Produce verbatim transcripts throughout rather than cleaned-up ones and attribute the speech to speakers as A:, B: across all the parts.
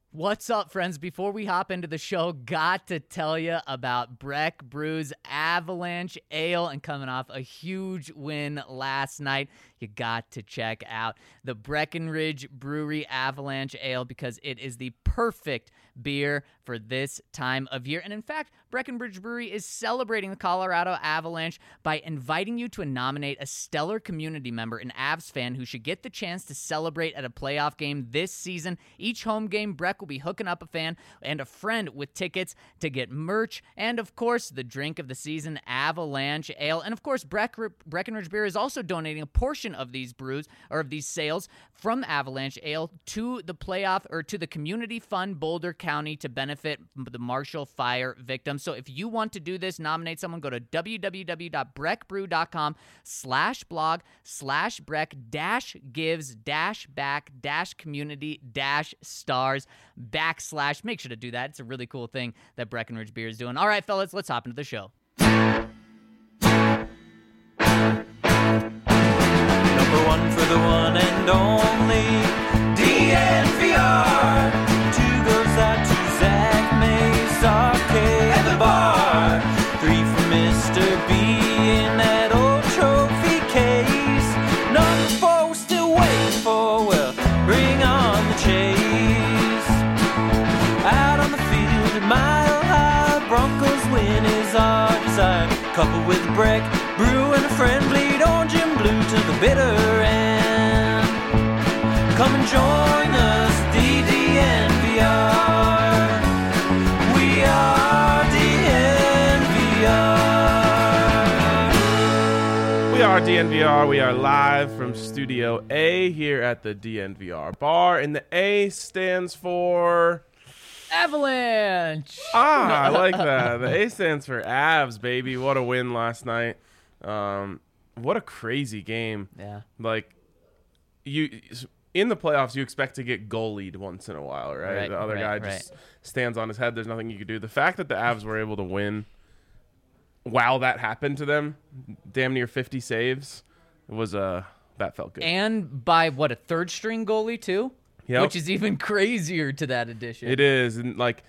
A: What's up, friends? Before we hop into the show, got to tell you about Breck Brew's Avalanche Ale, and coming off a huge win last night, you got to check out the Breckenridge Brewery Avalanche Ale because it is the perfect beer for this time of year. And in fact, Breckenridge Brewery is celebrating the Colorado Avalanche by inviting you to nominate a stellar community member, an Avs fan who should get the chance to celebrate at a playoff game this season. Each home game, Breck will be hooking up a fan and a friend with tickets to get merch and, of course, the drink of the season, Avalanche Ale. And, of course, Breck, Breckenridge Beer is also donating a portion of these brews or of these sales from Avalanche Ale to the playoff or to the Community Fund Boulder County to benefit the Marshall Fire victims. So if you want to do this, nominate someone, go to www.breckbrew.com slash blog slash Breck dash gives dash back dash community dash stars backslash. Make sure to do that. It's a really cool thing that Breckenridge Beer is doing. All right, fellas, let's hop into the show.
B: Number one for the one and only D N V R. Two goes out to Zach Mace, Arcade, and the bar. Three for Mister B in that old trophy case. Number four we're still waiting for, well, bring on the chase. Out on the field at Mile High, Broncos win is our desire. Couple with Breck, Brew and a friend, bleed orange and blue to the bitter end. Come and join us, D D N V R. We are D N V R.
C: We are D N V R. We are live from Studio A here at the D N V R bar, and the A stands for
A: Avalanche.
C: Ah, I like that. The A stands for Avs, baby. What a win last night. Um, what a crazy game.
A: Yeah.
C: Like, you in the playoffs, you expect to get goalied once in a while, right?
A: Right,
C: the other
A: right,
C: guy just
A: right.
C: stands on his head. There's nothing you could do. The fact that the Avs were able to win while that happened to them, damn near fifty saves, was uh, that felt good.
A: And by, what, a third-string goalie, too?
C: Yep.
A: Which is even crazier to that addition.
C: It is, and like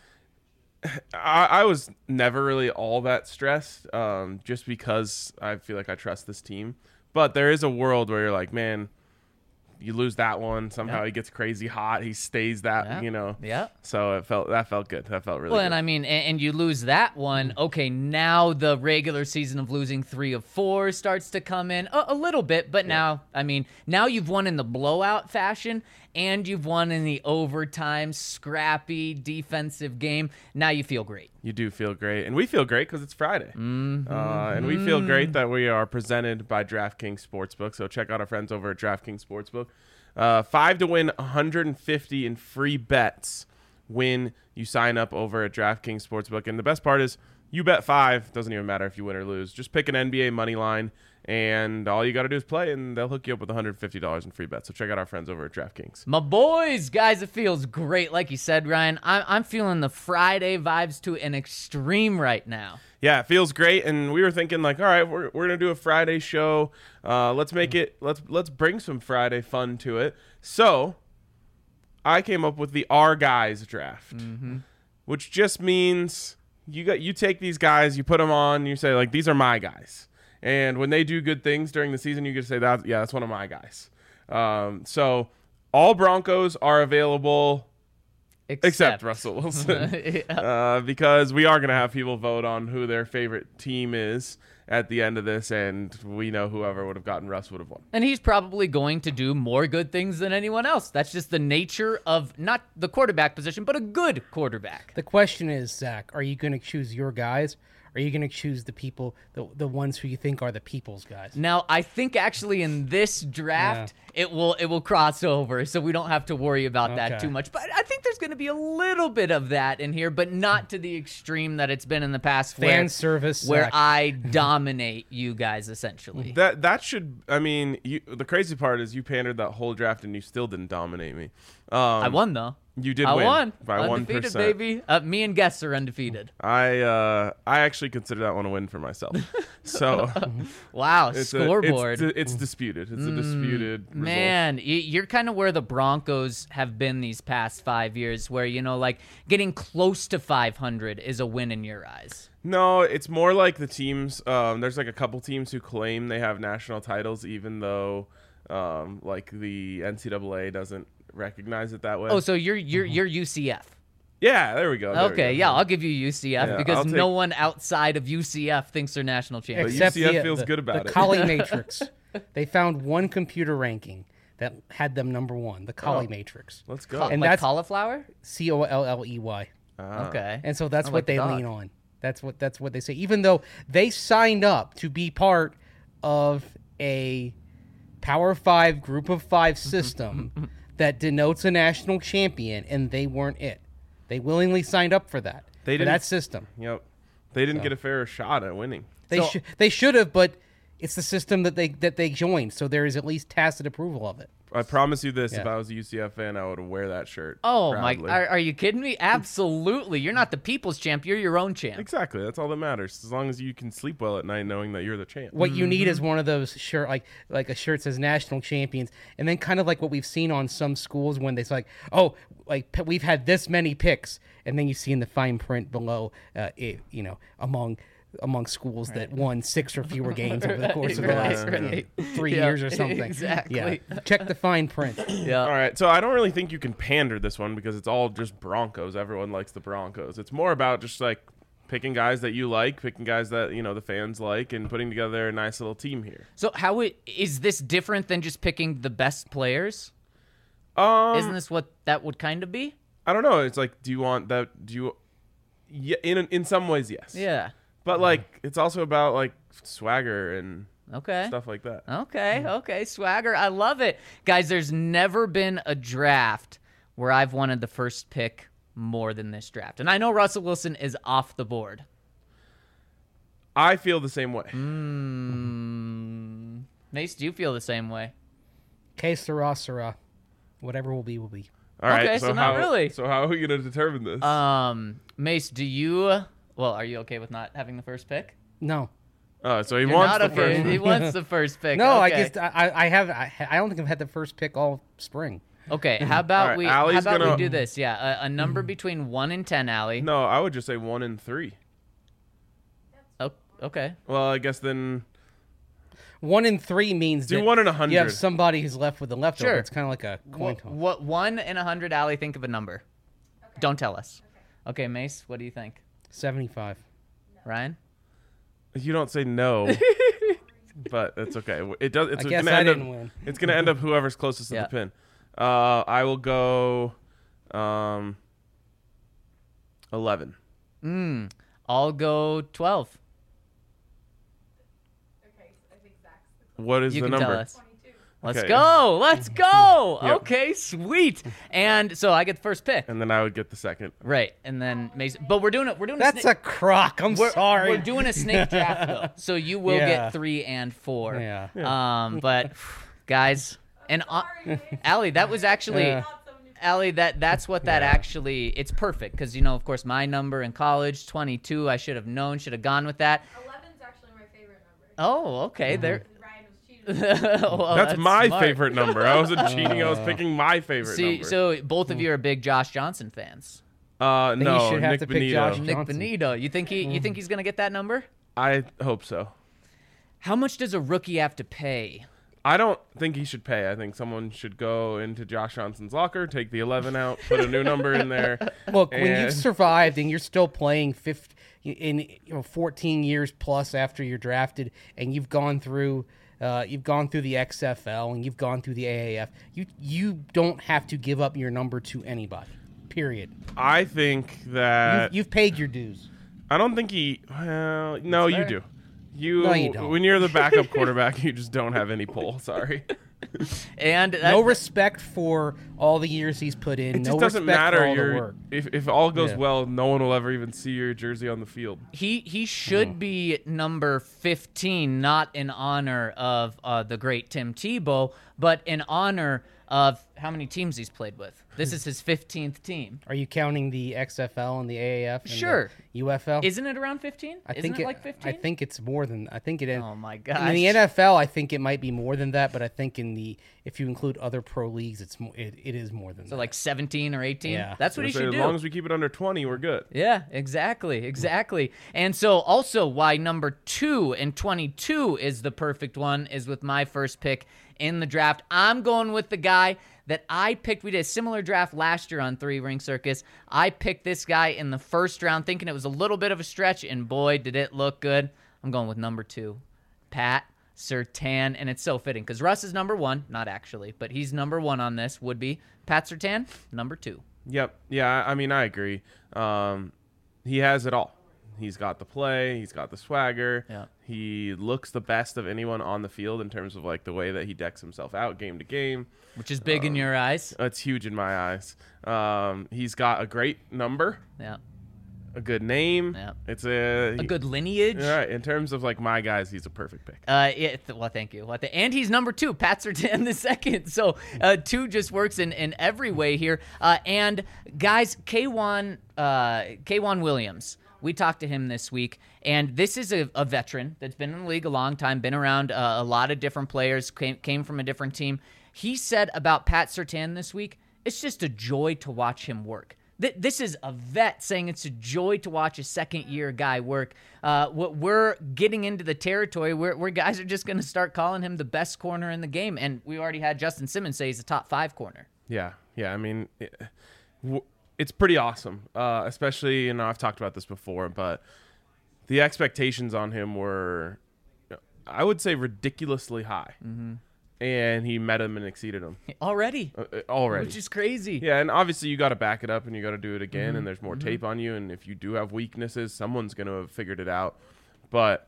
C: I, I was never really all that stressed, um, just because I feel like I trust this team. But there is a world where you're like, man, you lose that one, somehow
A: Yeah.
C: he gets crazy hot, he stays that,
A: Yeah.
C: you know.
A: Yeah.
C: So it felt that felt good. That felt really
A: Well,
C: good.
A: and I mean, and, and you lose that one. Okay, now the regular season of losing three of four starts to come in a, a little bit, but now, I mean, now you've won in the blowout fashion, and you've won in the overtime, scrappy defensive game. Now you feel great.
C: You do feel great, and we feel great because it's Friday. Mm-hmm. Uh, and we feel great that we are presented by DraftKings Sportsbook. So check out our friends over at DraftKings Sportsbook. Uh, five to win one hundred fifty in free bets when you sign up over at DraftKings Sportsbook. And the best part is you bet five. Doesn't even matter if you win or lose. Just pick an N B A money line, and all you got to do is play, and they'll hook you up with one hundred fifty dollars in free bets. So check out our friends over at DraftKings.
A: My boys, guys, it feels great. Like you said, Ryan, I'm, I'm feeling the Friday vibes to an extreme right now.
C: Yeah, it feels great, and we were thinking like, all right, we're we're gonna do a Friday show. Uh, let's make it. Let's let's bring some Friday fun to it. So, I came up with the Our Guys draft, mm-hmm. which just means you got you take these guys, you put them on, you say like, these are my guys, and when they do good things during the season, you can say that yeah, that's one of my guys. Um, so all Broncos are available.
A: Except,
C: Except Russell Wilson,
A: yeah.
C: uh, because we are going to have people vote on who their favorite team is at the end of this, and we know whoever would have gotten Russ would have won.
A: And he's probably going to do more good things than anyone else. That's just the nature of not the quarterback position, but a good quarterback.
D: The question is, Zach, are you going to choose your guys? Or are you going to choose the people, the the ones who you think are the people's guys?
A: Now, I think actually in this draft, yeah. it will it will cross over, so we don't have to worry about
D: Okay.
A: that too much. But I think there's going to be a little bit of that in here, but not to the extreme that it's been in the past.
D: Fan
A: where,
D: service,
A: where
D: Zach.
A: I dominate you guys essentially.
C: That that should, I mean, you, the crazy part is you pandered that whole draft and you still didn't dominate me. Um,
A: I won though.
C: You did
A: I
C: win
A: won.
C: by one
A: Undefeated,
C: percent.
A: baby. Uh, me and Guess are undefeated.
C: I uh, I actually consider that one a win for myself. So
A: Wow,
C: it's
A: scoreboard.
C: A, it's, it's disputed. It's a disputed result.
A: Man, y- you're kind of where the Broncos have been these past five years, where, you know, like getting close to five hundred is a win in your eyes.
C: No, it's more like the teams. Um, there's like a couple teams who claim they have national titles, even though um, like the N C double A doesn't recognize it that way.
A: Oh, so you're you're you're U C F.
C: yeah, there we go. there we
A: Okay,
C: go.
A: yeah, I'll give you U C F
C: Yeah,
A: because
C: I'll
A: no
C: take-
A: one outside of U C F thinks they're national champions.
C: But U C F feels good about
D: the
C: it.
D: Collie Matrix. They found one computer ranking that had them number one, the Collie
C: Oh.
D: Matrix.
C: Let's go.
A: Ca-
D: and
A: like
D: that's-
A: cauliflower?
D: C O L L E Y.
C: Ah.
A: Okay.
D: And so that's
A: I
D: what
A: like the
D: they
A: dog.
D: lean on. That's what that's what they say. Even though they signed up to be part of a Power Five Group of Five system that denotes a national champion, and they weren't it. They willingly signed up for that.
C: They
D: for
C: didn't-
D: that system.
C: Yep. They didn't get a fair shot at winning.
D: They
A: So-
D: should they should have, but it's the system that they that they joined, so there is at least tacit approval of it.
C: I promise you this:
D: Yeah.
C: if I was a U C F fan, I would wear that shirt.
A: Oh my!
C: proudly.
A: Are, are you kidding me? Absolutely! You're not the people's champ. You're your own champ.
C: Exactly. That's all that matters. As long as you can sleep well at night, knowing that you're the champ.
D: What you need
A: Mm-hmm.
D: is one of those shirt like like a shirt says national champions, and then kind of like what we've seen on some schools when they say like, oh, like p- we've had this many picks, and then you see in the fine print below, uh, it, you know, among among schools that won six or fewer games over the course of the
A: Right,
D: last
A: right.
D: you know, three
A: Yeah,
D: years or something.
A: exactly.
D: Yeah. Check the fine print.
A: Yeah.
C: All right, so I don't really think you can pander this one because it's all just Broncos. Everyone likes the Broncos. It's more about just like picking guys that you like, picking guys that you know the fans like, and putting together a nice little team here.
A: So how it, is this different than just picking the best players?
C: Um,
A: Isn't this what that would kind of be?
C: I don't know. It's like, do you want that? Do you? Yeah, in in some ways, yes.
A: Yeah.
C: But like, it's also about like swagger and
A: Okay.
C: stuff like that.
A: Okay, okay, swagger. I love it. Guys, there's never been a draft where I've wanted the first pick more than this draft. And I know Russell Wilson is off the board.
C: I feel the same way.
A: Mm. Mace, do you feel the same way?
D: Que sera, sera. Whatever will be, will be.
C: All right.
A: Okay,
C: so,
A: so not
C: how,
A: really.
C: So how are we gonna determine this?
A: Um, Mace, do you well, are you okay with not having the first pick?
D: No.
C: oh, so he
A: You're
C: wants
A: not
C: the
A: okay.
C: first.
A: He wants the first pick.
D: No,
A: okay.
D: I just I, I have I, I don't think I've had the first pick all spring.
A: Okay, how about
C: All right,
A: we how
C: Allie's
A: about we
C: gonna-
A: do this? Yeah, a, a number between one and ten, Allie.
C: No, I would just say one and three.
A: Oh, okay.
C: Well, I guess then
D: One in three means
C: do
D: that
C: one in a
D: you
C: hundred.
D: have somebody who's left with the leftover.
A: Sure.
D: It's kind of like a coin
A: What,
D: toss.
A: what one in a hundred, Allie? Think of a number. Don't tell us. Okay. Mace, what do you think?
D: seventy-five.
A: Ryan?
C: You don't say no, but it's okay. It does. It's
D: I guess
C: gonna
D: I
C: end
D: didn't
C: up,
D: win.
C: It's gonna end up whoever's closest to
A: Yeah.
C: the pin. Uh, I will go, um, eleven.
A: Mm. I'll go twelve.
C: What is
A: You
C: the
A: can
C: number?
A: tell us. Let's
C: Okay.
A: go. Let's go.
C: Yep.
A: Okay, sweet. And so I get the first pick.
C: And then I would get the second.
A: Right. And then Mace, but we're doing it. We're doing
D: That's
A: a
D: a crock. I'm
A: We're,
D: sorry.
A: we're doing a snake draft though, so you will
D: Yeah.
A: get three and four.
D: Yeah.
A: Um, but guys, and uh, Allie, that was actually,
D: Yeah.
A: Allie, that that's what that actually. It's perfect because you know, of course, my number in college, twenty-two. I should have known, should have gone with that.
E: eleven's actually my favorite number.
A: Oh, okay. There.
E: Ryan was cheating.
A: Well,
C: that's, my
A: smart.
C: favorite number. I wasn't cheating. I was picking my favorite
A: See,
C: number.
A: so both of you are big Josh Johnson fans.
C: uh,
D: Then you
C: no,
D: should have
C: Nick
D: to pick
C: Benito.
D: Josh
A: Nick
D: Johnson.
A: Benito. You think he? You think he's gonna get that number?
C: I hope so.
A: How much does a rookie have to pay?
C: I don't think he should pay. I think someone should go into Josh Johnson's locker, take the eleven out, put a new number in there.
D: Look, when
C: and-
D: you've survived and you're still playing fifty, in you know fourteen years plus after you're drafted, and you've gone through, uh, you've gone through the X F L and you've gone through the A A F, you you don't have to give up your number to anybody. Period.
C: I think that
D: You've, you've paid your dues.
C: I don't think he. Well, no, you
A: fair.
C: do. You,
D: No, you don't.
C: when you're the backup quarterback, you just don't have any pull. Sorry.
A: And that,
D: No respect for all the years he's put in.
C: It
D: no
C: just doesn't
D: respect
C: matter.
D: for all the
C: You're,
D: work.
C: if if all goes
D: Yeah.
C: well, no one will ever even see your jersey on the field.
A: he he should be number fifteen, not in honor of uh, the great Tim Tebow, but in honor of how many teams he's played with. This is his fifteenth team.
D: Are you counting the X F L and the A A F? And
A: Sure.
D: The U F L?
A: Isn't it around fifteen?
D: I
A: Isn't
D: think
A: it like fifteen?
D: I think it's more than. I think it is.
A: Oh my
D: In
A: gosh.
D: the N F L, I think it might be more than that, but I think in the if you include other pro leagues, it's more. It, it is more than
A: So
D: that.
A: like seventeen or eighteen?
D: Yeah.
A: That's what he
C: So
A: should
C: as
A: do.
C: long as we keep it under twenty, we're good.
A: Yeah, exactly, exactly. And so also why number two and twenty-two is the perfect one is with my first pick in the draft. I'm going with the guy that I picked. We did a similar draft last year on Three Ring Circus. I picked this guy in the first round thinking it was a little bit of a stretch, and boy, did it look good. I'm going with number two, Pat Surtain, and it's so fitting because Russ is number one, not actually, but he's number one on this, would be Pat Surtain, number two.
C: Yep. Yeah, I mean, I agree. Um, he has it all. He's got the play. He's got the swagger.
A: Yeah.
C: He looks the best of anyone on the field in terms of like the way that he decks himself out game to game.
A: Which is big in your eyes.
C: That's huge in my eyes. Um, he's got a great number,
A: Yeah.
C: a good name.
A: Yeah.
C: It's a,
A: A good lineage.
C: All right. In terms of like my guys, he's a perfect pick.
A: Uh, yeah, th- well, thank you. Well, th- and he's number two, Pat Surtain the second. So uh, two just works in, in every way here. Uh, and guys, K'Wan, uh, K'Wan Williams, we talked to him this week, and this is a, a veteran that's been in the league a long time, been around uh, a lot of different players, came, came from a different team. He said about Pat Surtain this week, it's just a joy to watch him work. Th- This is a vet saying it's a joy to watch a second-year guy work. Uh, what we're getting into the territory where, where guys are just going to start calling him the best corner in the game, and we already had Justin Simmons say he's a top five corner.
C: Yeah, yeah. I mean, it, w- it's pretty awesome. Uh, especially, you know, I've talked about this before, but the expectations on him were, I would say, ridiculously high, mm-hmm. and he met them and exceeded them
A: Already,
C: uh, already.
A: which is crazy.
C: Yeah, and obviously you got to back it up and you got to do it again,
A: Mm-hmm.
C: and there's more tape on you, and if you do have weaknesses, someone's going to have figured it out. But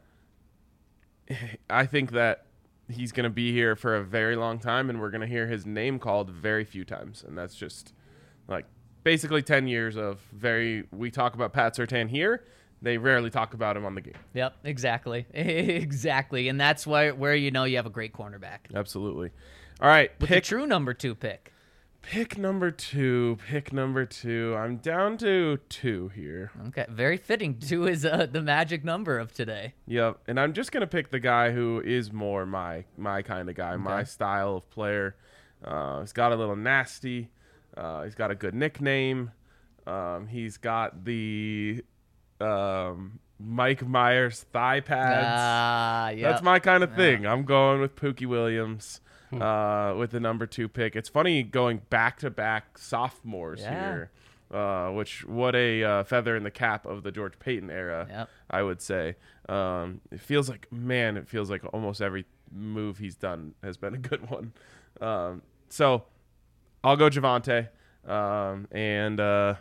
C: I think that he's going to be here for a very long time, and we're going to hear his name called very few times, and that's just like basically ten years of very. We talk about Pat Surtain here. They rarely talk about him on the game.
A: Yep, exactly, exactly, and that's why where you know you have a great cornerback
C: Absolutely. All right,
A: with
C: pick
A: the true number two pick.
C: pick number two. Pick number two. I'm down to two here.
A: Okay, very fitting. Two is uh, the magic number of today.
C: Yep, and I'm just gonna pick the guy who is more my my kind of guy, my style of player. Uh, he's got a little nasty. Uh, he's got a good nickname. Um, he's got the um, Mike Myers thigh pads.
A: Ah, yeah.
C: That's my kind of thing. I'm going with Pookie Williams uh, with the number two pick. It's funny going back to back sophomores
A: Yeah.
C: here. Uh, which what a uh, feather in the cap of the George Payton era,
A: Yep.
C: I would say. Um, it feels like, man, it feels like almost every move he's done has been a good one. Um, so I'll go Javonte, um, and uh,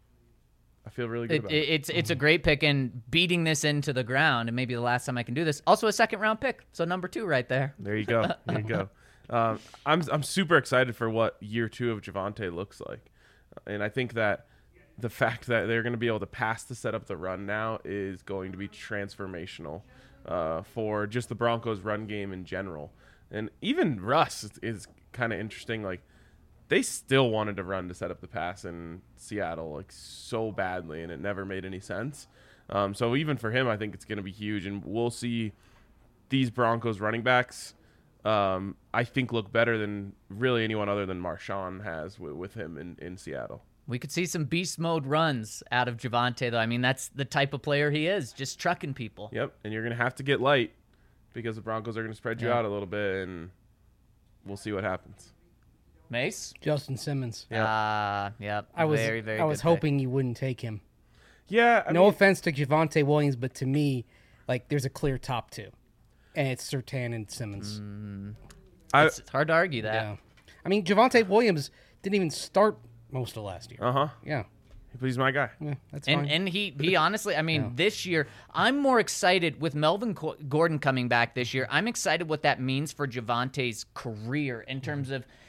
C: I feel really good
A: It,
C: about
A: it,
C: it.
A: it's it's a great pick, and beating this into the ground, and maybe the last time I can do this. Also a second round pick, so number two right there.
C: There you go. There you go. Um, I'm I'm super excited for what year two of Javonte looks like, and I think that the fact that they're going to be able to pass to set up the run now is going to be transformational uh, for just the Broncos' run game in general, and even Russ is, is kind of interesting. Like they still wanted to run to set up the pass in Seattle like so badly, and it never made any sense. Um, so even for him, I think it's going to be huge, and we'll see these Broncos running backs. Um, I think look better than really anyone other than Marshawn has w- with him in, in Seattle.
A: We could see some beast mode runs out of Javonte, though. I mean, that's the type of player he is, just trucking people.
C: Yep, and you're going to have to get light because the Broncos are going to spread you
A: Yeah.
C: out a little bit, and we'll see what happens.
A: Mace?
D: Justin Simmons.
C: Yep.
A: Ah, yep.
D: I was
A: very, very
D: I was
A: good pick.
D: hoping you wouldn't take him.
C: Yeah, I
D: No
C: mean,
D: offense to Javonte Williams, but to me, like there's a clear top two, and it's Surtain and Simmons.
C: I,
A: It's, it's hard to argue that.
D: Yeah, I mean Javonte Williams didn't even start most of last year.
C: uh-huh,
D: Yeah,
C: but he's my guy.
D: yeah, that's
A: And
D: fine.
A: and he he honestly, I mean,
D: Yeah.
A: this year I'm more excited with Melvin Co- Gordon coming back this year. I'm excited what that means for Javante's career in terms of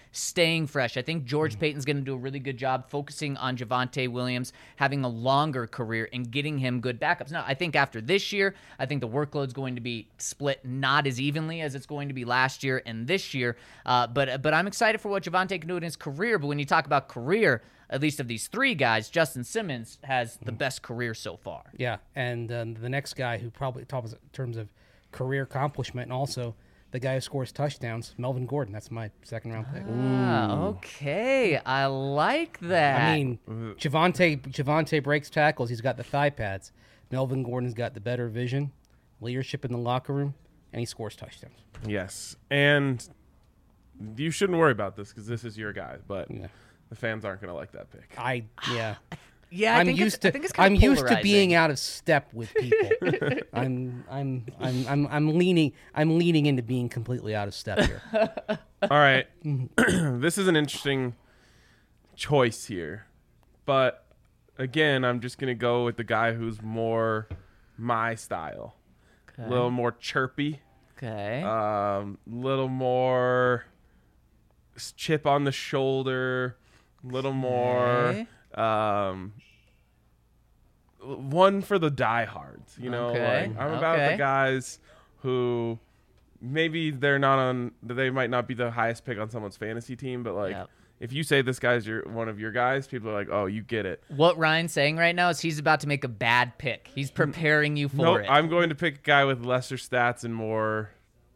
A: staying fresh. I think George Payton's going to do a really good job focusing on Javonte Williams having a longer career and getting him good backups. Now, I think after this year, I think the workload's going to be split not as evenly as it's going to be last year and this year. Uh, but but I'm excited for what Javonte can do in his career. But when you talk about career, at least of these three guys, Justin Simmons has the best career so far.
D: Yeah, and um, the next guy who probably top in terms of career accomplishment, and also the guy who scores touchdowns, Melvin Gordon. That's my second round pick.
A: Ah, okay. I like that.
D: I mean, Javonte Javonte breaks tackles. He's got the thigh pads. Melvin Gordon's got the better vision, leadership in the locker room, and he scores touchdowns.
C: Yes, and you shouldn't worry about this because this is your guy, but
D: Yeah.
C: the fans aren't going to like that pick.
D: I yeah.
A: yeah, I
D: I'm
A: think
D: used
A: it's, I
D: to
A: think it's kind
D: I'm
A: of
D: used to being
A: polarizing.
D: out of step with people. I'm I'm I'm I'm I'm leaning I'm leaning into being completely out of step here.
C: All right. This is an interesting choice here. But again, I'm just going to go with the guy who's more my style. A
A: Okay.
C: little more chirpy,
A: Okay.
C: um, little more s- chip on the shoulder, a little more
A: Okay.
C: um, one for the diehards. You know,
A: Okay,
C: like, I'm about
A: okay.
C: the guys who maybe they're not on, they might not be the highest pick on someone's fantasy team, but like
A: Yep.
C: if you say this guy's your one of your guys, people are like, oh, you get it.
A: What Ryan's saying right now is he's about to make a bad pick. He's preparing you for
C: No,
A: it.
C: I'm going to pick a guy with lesser stats and more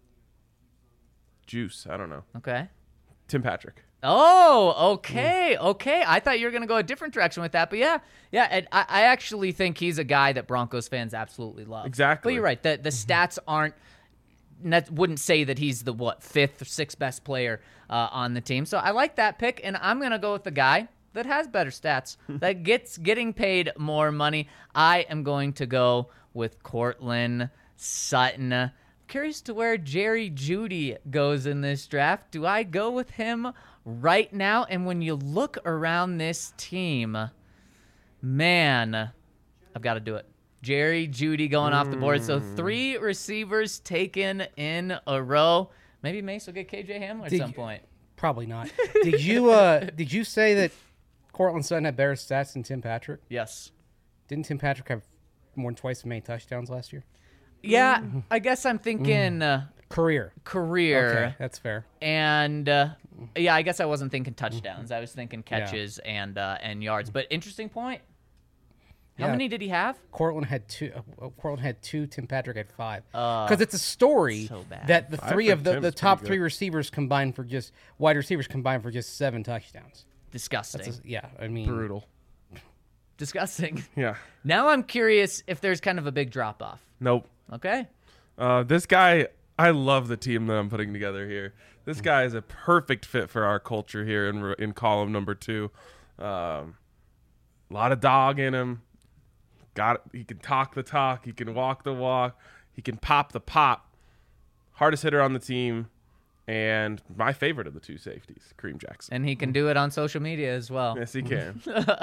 C: juice. I don't know.
A: Okay.
C: Tim Patrick.
A: Oh, okay, okay. I thought you were going to go a different direction with that, but yeah, yeah. And I, I actually think he's a guy that Broncos fans absolutely love.
C: Exactly.
A: But you're right. The the stats aren't. That wouldn't say that he's the what fifth or sixth best player uh, on the team. So I like that pick, and I'm going to go with the guy that has better stats, that gets getting paid more money. I am going to go with Cortland Sutton. Curious to where Jerry Jeudy goes in this draft. Do I go with him right now? And when you look around this team, man, I've got to do it. Jerry Jeudy going off the board. So three receivers taken in a row. Maybe Mace will get K J Hamler at
D: Did
A: some
D: you-
A: point.
D: Probably not. Did you uh did you say that Cortland Sutton had better stats than Tim Patrick?
A: Yes.
D: Didn't Tim Patrick have more than twice as many touchdowns last year?
A: Yeah, I guess I'm thinking uh,
D: Career.
A: career.
D: Okay, that's fair.
A: And uh, yeah, I guess I wasn't thinking touchdowns. I was thinking catches and uh, and yards. But interesting point. How
D: Yeah.
A: many did he have?
D: Cortland had two. Uh, Cortland had two. Tim Patrick had five.
A: Uh,
D: Because it's a story
A: so bad.
D: that the
C: Five
D: three
C: for
D: of the,
C: Tim's
D: the
C: pretty
D: top
C: good.
D: three receivers combined for just wide receivers combined for just seven touchdowns.
A: Disgusting.
D: That's a- yeah, I mean,
C: Brutal.
A: Disgusting.
C: Yeah.
A: Now I'm curious if there's kind of a big drop off.
C: Nope.
A: Okay.
C: Uh, this guy, I love the team that I'm putting together here. This guy is a perfect fit for our culture here in in column number two. Um, a lot of dog in him. Got he can talk the talk. He can walk the walk. He can pop the pop. Hardest hitter on the team, and my favorite of the two safeties, Kareem Jackson.
A: And he can do it on social media as well.
C: Yes, he can.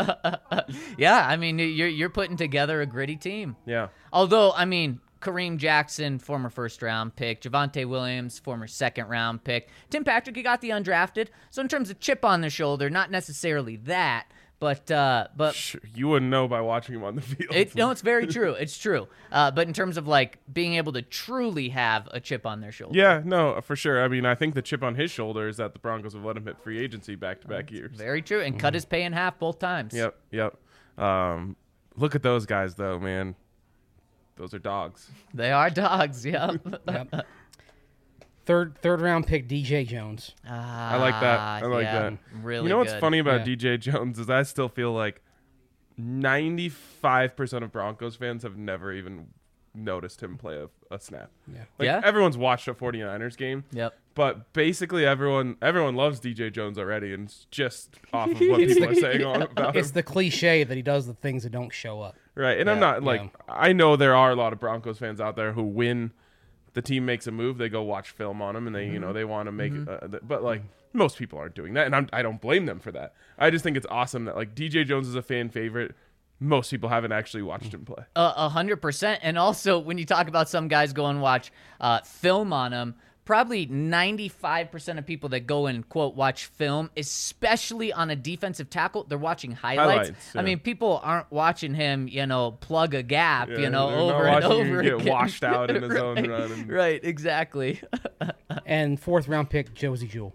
A: Yeah, I mean, you're you're putting together a gritty team.
C: Yeah.
A: Although, I mean, Kareem Jackson, former first round pick. Javonte Williams, former second round pick. Tim Patrick, he got the undrafted. So in terms of chip on the shoulder, not necessarily that, but uh, but
C: Sure, you wouldn't know by watching him on the field.
A: it, no, it's very true. It's true. Uh, but in terms of like being able to truly have a chip on their shoulder,
C: Yeah, no, for sure. I mean, I think the chip on his shoulder is that the Broncos have let him hit free agency back to back years.
A: very true, and cut his pay in half both times.
C: Yep, yep. Um, look at those guys, though, man. Those are dogs.
A: They are dogs. Yep.
D: Yep. Third third round pick D J Jones.
C: I like that. I like
A: yeah,
C: that.
A: Really
C: you know what's
A: good.
C: funny about
D: Yeah.
C: D J Jones is I still feel like ninety-five percent of Broncos fans have never even noticed him play a, a snap.
D: Yeah.
C: Like,
A: Yeah?
C: everyone's watched a 49ers game.
A: Yep.
C: But basically, everyone everyone loves D J Jones already, and it's just off of what people are saying on about him.
D: It's the cliche that he does the things that don't show up.
C: Right, and I'm
D: Yeah,
C: not like
D: yeah.
C: I know there are a lot of Broncos fans out there who win. The team makes a move, they go watch film on him, and they you know they want to make. Uh, th- but like most people aren't doing that, and I'm, I don't blame them for that. I just think it's awesome that like D J Jones is a fan favorite. Most people haven't actually watched him play.
A: A a hundred percent. And also, when you talk about some guys go and watch uh, film on him, probably ninety-five percent of people that go and, quote, watch film, especially on a defensive tackle, they're watching highlights.
C: Highlights,
A: I
C: yeah.
A: mean, people aren't watching him, you know, plug a gap,
C: Yeah,
A: you know,
C: they're not
A: over and
C: watching him
A: over
C: get
A: again.
C: washed out in his
A: right,
C: own run and-
A: Right, exactly.
D: And fourth round pick Josie Jewell.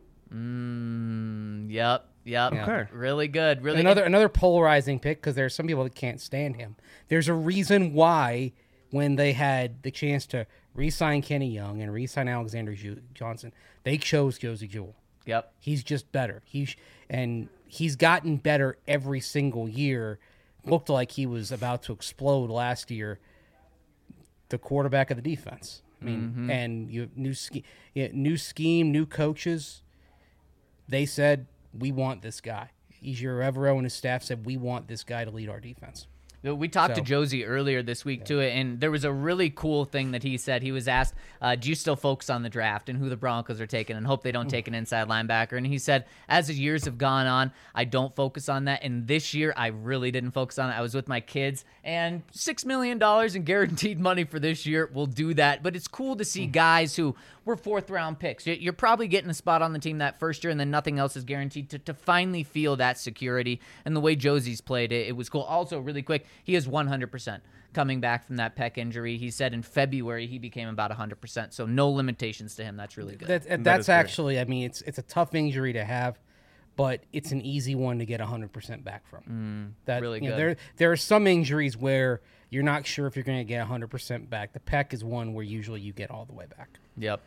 A: mm, yep, yep.
C: Okay.
A: Really good. Really
D: Another another polarizing pick because there are some people that can't stand him. There's a reason why when they had the chance to re-sign Kenny Young and re-sign Alexander Ju- Johnson, they chose Josie Jewell.
A: Yep.
D: He's just better. He's and he's gotten better every single year. Looked like he was about to explode last year. The quarterback of the defense. I mean,
A: Mm-hmm.
D: and you have new scheme, yeah, new scheme, new coaches. They said we want this guy. Ejiro Evero and his staff said we want this guy to lead our defense.
A: We talked
D: So-
A: to Josie earlier this week, too, and there was a really cool thing that he said. He was asked, uh, do you still focus on the draft and who the Broncos are taking and hope they don't take an inside linebacker? And he said, as the years have gone on, I don't focus on that. And this year, I really didn't focus on it. I was with my kids, and six million dollars in guaranteed money for this year will do that. But it's cool to see guys who were fourth-round picks. You- You're probably getting a spot on the team that first year, and then nothing else is guaranteed to, to finally feel that security. And the way Josie's played it, it was cool. Also, really quick, he is one hundred percent coming back from that pec injury. He said in February he became about one hundred percent, so no limitations to him. That's really good.
D: That,
C: That
D: that's
C: is great.
D: actually, I mean, it's it's a tough injury to have, but it's an easy one to get one hundred percent back from. that
A: really
D: you know,
A: good.
D: there there are some injuries where you're not sure if you're going to get one hundred percent back. The pec is one where usually you get all the way back.
A: Yep.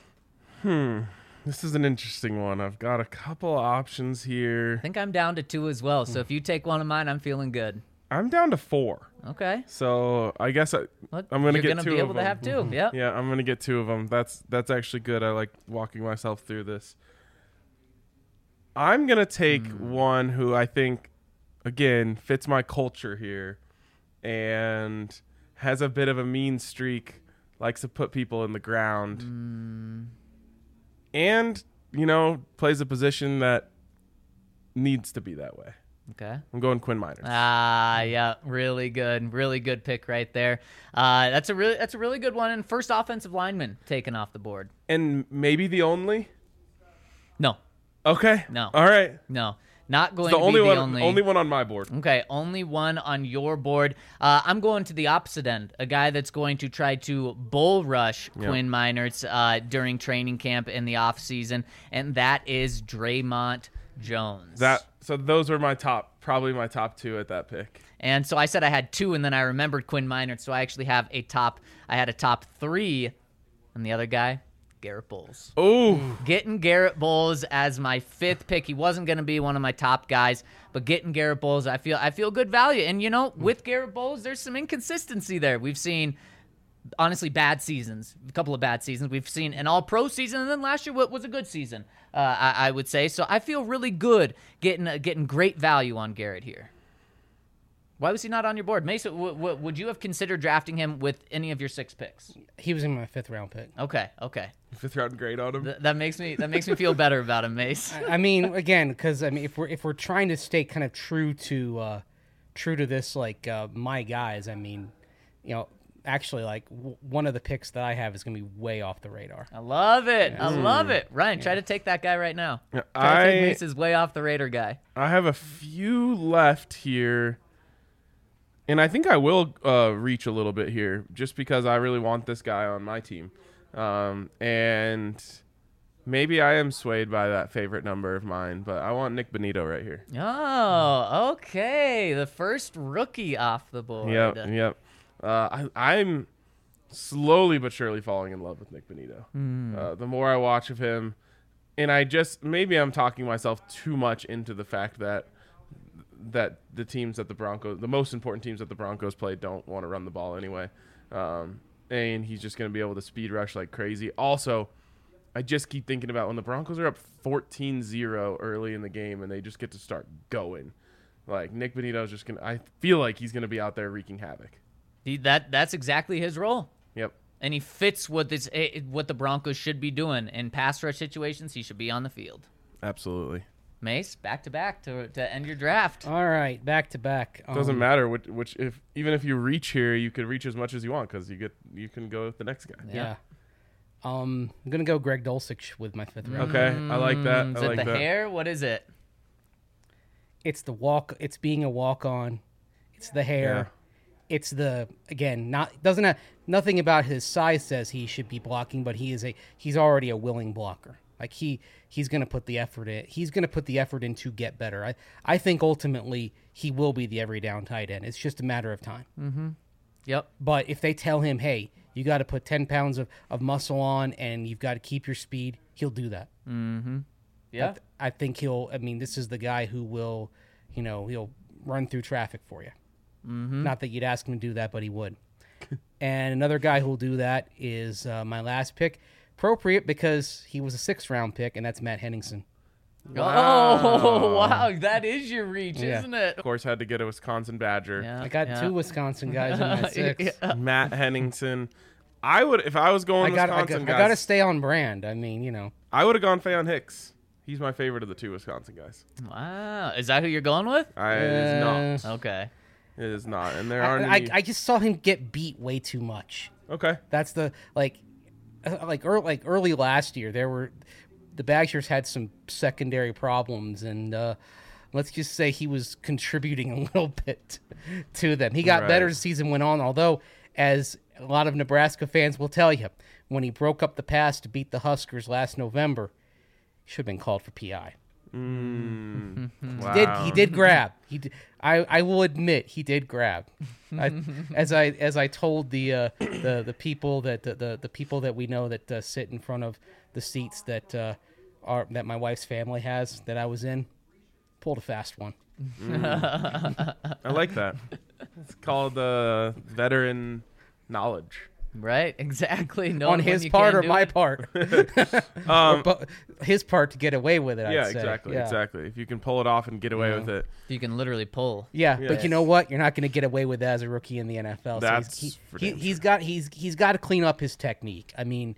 D: So
C: This is an interesting one. I've got a couple options
A: I
C: here.
A: think I'm down to two as well, so if you take one of mine, I'm feeling good.
C: I'm down to four.
A: Okay.
C: So I guess I,
A: Well,
C: I'm gonna
A: you're
C: get
A: gonna
C: two
A: be
C: of
A: able to
C: them.
A: have two. Yep.
C: Yeah, I'm gonna get two of them. That's that's actually good. I like walking myself through this. I'm gonna take
A: Hmm.
C: one who I think, again, fits my culture here, and has a bit of a mean streak. Likes to put people in the ground,
A: Hmm.
C: and you know plays a position that needs to be that way.
A: Okay.
C: I'm going Quinn Miners.
A: Ah, yeah, really good, really good pick right there. Uh, that's a really, that's a really good one. And first offensive lineman taken off the board.
C: and maybe the only.
A: No,
C: Okay.
A: No.
C: All right.
A: no, not going
C: The
A: to
C: only
A: be the
C: one.
A: only.
C: Only one on my board.
A: Okay, only one on your board. Uh, I'm going to the opposite end. A guy that's going to try to bull rush
C: Yep.
A: Quinn Miners uh, during training camp in the offseason, and that is Draymond Jones.
C: That. So those were my top, probably my top two at that pick.
A: And so I said I had two, and then I remembered Quinn Miners, so I actually have a top. I had a top three, and the other guy, Garrett Bowles.
C: Oh,
A: Getting Garrett Bowles as my fifth pick. He wasn't going to be one of my top guys, but getting Garrett Bowles, I feel I feel good value. And you know, with Garrett Bowles, there's some inconsistency there. We've seen honestly bad seasons, a couple of bad seasons. We've seen an all-pro season, and then last year was a good season, uh, I, I would say. So I feel really good getting uh, getting great value on Garrett here. Why was he not on your board? Mason, w- w- would you have considered drafting him with any of your six picks?
D: he was in my fifth round pick.
A: Okay, okay.
C: fifth round grade on him.
A: Th- that makes me that makes me feel better about him, Mace.
D: I mean, again, because I mean, if we're if we're trying to stay kind of true to uh, true to this, like uh, my guys, I mean, you know, actually, like w- one of the picks that I have is going to be way off the radar.
A: I love it. I love it. Ryan, try to take that guy right now.
C: Yeah,
A: Try to take
C: I-
A: Mace's way off the radar guy.
C: I have a few left here, and I think I will uh, reach a little bit here, just because I really want this guy on my team, um, and maybe I am swayed by that favorite number of mine, but I want Nick Benito right here.
A: Oh, okay. The first rookie off the board.
C: Yep, yep. Uh, I, I'm slowly but surely falling in love with Nick Benito. Uh, the more I watch of him, and I just maybe I'm talking myself too much into the fact that that the teams that the Broncos, the most important teams that the Broncos play, don't want to run the ball anyway, um, and he's just going to be able to speed rush like crazy. Also, I just keep thinking about when the Broncos are up fourteen zero early in the game and they just get to start going. Like Nick Benito's just gonna. I feel like he's gonna be out there wreaking havoc.
A: He, that that's exactly his role.
C: Yep.
A: And he fits what this eh, what the Broncos should be doing in pass rush situations. He should be on the field.
C: Absolutely.
A: Mace, back to back to to end your draft.
D: All right, back to back.
C: Doesn't
D: Um,
C: matter which, which if even if you reach here, you could reach as much as you want because you get you can go with the next guy.
D: Yeah. Um, I'm gonna go Greg Dulcich with my fifth round.
C: Okay, I like that.
A: Mm,
C: I
A: is it
C: like
A: the
C: that.
A: hair? What is it?
D: It's the walk. It's being a walk on. It's the hair. It's the again not doesn't have nothing about his size says he should be blocking, but he is a he's already a willing blocker. Like he he's gonna put the effort in. He's gonna put the effort in to get better. I I think ultimately he will be the every down tight end. It's just a matter of time.
A: Yep.
D: But if they tell him, hey, you got to put ten pounds of, of muscle on and you've got to keep your speed, he'll do that.
A: Yeah.
D: I, th- I think he'll, I mean, this is the guy who will, you know, he'll run through traffic for you. Mm-hmm. Not that you'd ask him to do that, but he would. And another guy who'll do that is uh, my last pick. Appropriate because he was a sixth round pick, and that's Matt Henningsen.
A: Oh, wow. That is your reach,
D: Yeah.
A: isn't it?
C: Of course, had to get a Wisconsin Badger.
A: Yeah.
D: I got
A: yeah.
D: two Wisconsin guys in my six.
A: Yeah.
C: Matt Henningsen. I would, if I was going
D: I got, I
C: Wisconsin
D: got, I
C: guys,
D: got to stay on brand. I mean, you know,
C: I would have gone Faion Hicks. He's my favorite of the two Wisconsin guys.
A: Wow. Is that who you're going with?
C: I, it is not.
A: Okay.
C: It is not. And there
D: I,
C: aren't
D: I,
C: any.
D: I just saw him get beat way too much.
C: okay.
D: That's the like, uh, like early, like early last year. There were the Badgers had some secondary problems, and uh, let's just say he was contributing a little bit to them. He got
C: Right.
D: better as the season went on. Although, as a lot of Nebraska fans will tell you, when he broke up the pass to beat the Huskers last November, he should have been called for P I.
C: Mm. wow.
D: Did he did grab? He did, I I will admit he did grab. I, as I as I told the uh, the the people that the, the, the people that we know that uh, sit in front of the seats that uh, are that my wife's family has that I was in, pulled a fast one.
C: I like that. It's called uh, veteran knowledge.
A: Right? Exactly. No
D: On his part or my part,
C: Um,
D: Or bu- his part to get away with it. I'd
C: yeah,
D: say.
C: exactly,
D: Yeah.
C: exactly. If you can pull it off and get away with it,
A: You can literally pull.
D: Yeah,
C: Yes.
D: but you know what? You're not going to get away with that as a rookie in the N F L. So
C: That's
D: he's,
C: for
D: he,
C: damn
D: he, he's got he's he's got to clean up his technique. I mean,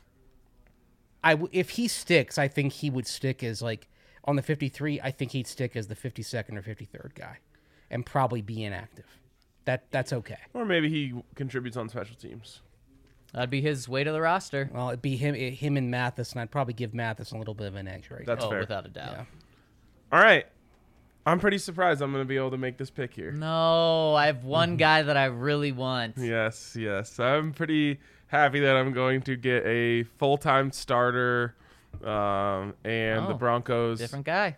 D: I w- if he sticks, I think he would stick as like on the fifty-three. I think he'd stick as the fifty-second or fifty-third guy, and probably be inactive. That that's okay.
C: or maybe he contributes on special teams.
A: That'd be his way to the roster.
D: Well, it'd be him it, him and Mathis, and I'd probably give Mathis a little bit of an edge right
C: That's
A: oh,
C: fair.
A: without a doubt.
D: Yeah.
C: All right. I'm pretty surprised I'm going to be able to make this pick here.
A: No, I have one
C: Mm-hmm.
A: guy that I really want.
C: Yes, yes. I'm pretty happy that I'm going to get a full-time starter um, and the
A: Oh,
C: Broncos
A: Different guy.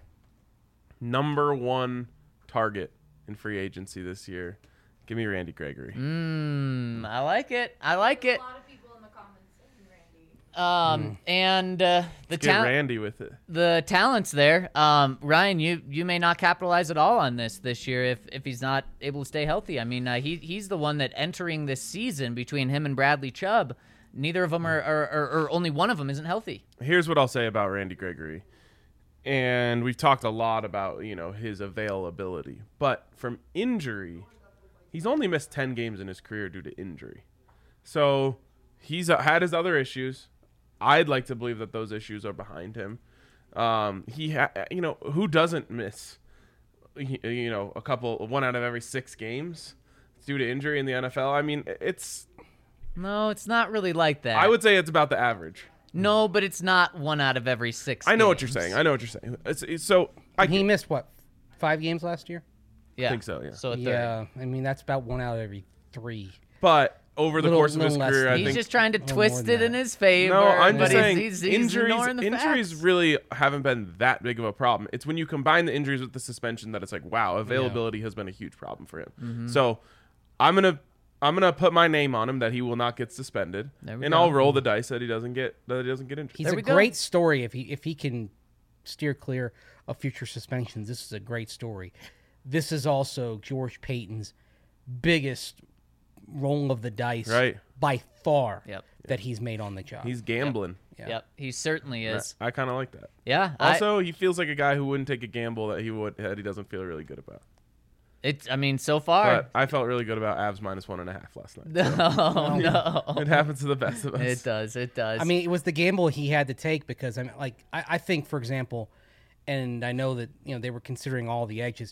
C: number one target in free agency this year. Give me Randy Gregory.
A: Mmm, I like it. I like
E: A
A: it.
E: lot of people in the comments saying Randy.
A: Um, and uh, the
C: Get
A: talent,
C: Randy with it.
A: the talents there. Um, Ryan, you you may not capitalize at all on this this year if if he's not able to stay healthy. I mean, uh, he he's the one that entering this season between him and Bradley Chubb, neither of them are, are, are or only one of them isn't healthy.
C: Here's what I'll say about Randy Gregory. And we've talked a lot about, you know, his availability. But from injury, he's only missed ten games in his career due to injury. So he's uh, had his other issues. I'd like to believe that those issues are behind him. Um, he, ha- you know, who doesn't miss, y- you know, a couple, one out of every six games due to injury in the N F L? I mean, it's,
A: No, it's not really like that.
C: I would say it's about the average.
A: No, but it's not one out of every six.
C: I know what you're
A: games.
C: saying. I know what you're saying. It's, it's so I
D: he missed what five games last year.
A: Yeah,
C: think so, yeah.
A: So a third.
D: Yeah, I mean that's about one out of every three.
C: But over the
D: Little-
C: course of his
D: little less
C: career,
D: than-
C: I
A: He's
C: think
A: just trying to
D: little
A: twist
D: more than
A: it in
D: that.
A: his favor.
C: no. I'm
A: but
C: just
A: he's-
C: saying
A: he's, he's
C: injuries.
A: ignoring the
C: Injuries
A: facts.
C: really haven't been that big of a problem. It's when you combine the injuries with the suspension that it's like, wow, availability has been a huge problem for him.
A: Mm-hmm.
C: So I'm gonna I'm gonna put my name on him that he will not get suspended,
A: There we
C: and
A: go.
C: I'll roll the dice that he doesn't get that he doesn't get injured.
D: He's
A: There
D: a
A: we go.
D: great story if he if he can steer clear of future suspensions. This is a great story. This is also George Payton's biggest roll of the dice,
C: Right.
D: by far,
A: Yep.
D: that he's made on the job.
C: He's gambling.
D: Yeah.
A: Yep, he certainly is.
C: I kind of like that.
A: Yeah. I-
C: Also, he feels like a guy who wouldn't take a gamble that he would that he doesn't feel really good about.
A: it's. I mean, so far.
C: But I felt really good about Avs minus one and a half last night.
A: No, no.
C: It happens to the best of us.
A: It does. It does.
D: I mean, it was the gamble he had to take because I mean, like I, I think, for example, and I know that you know they were considering all the edges.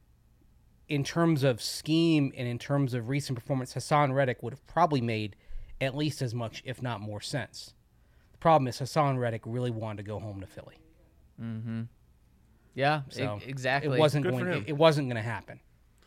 D: In terms of scheme and in terms of recent performance, Hassan Reddick would have probably made at least as much, if not more, sense. Problem is, Hassan Reddick really wanted to go home to Philly.
A: Yeah,
D: So
A: e- exactly.
D: It wasn't
C: Good
D: going.
C: for him.
D: It, it wasn't going to happen.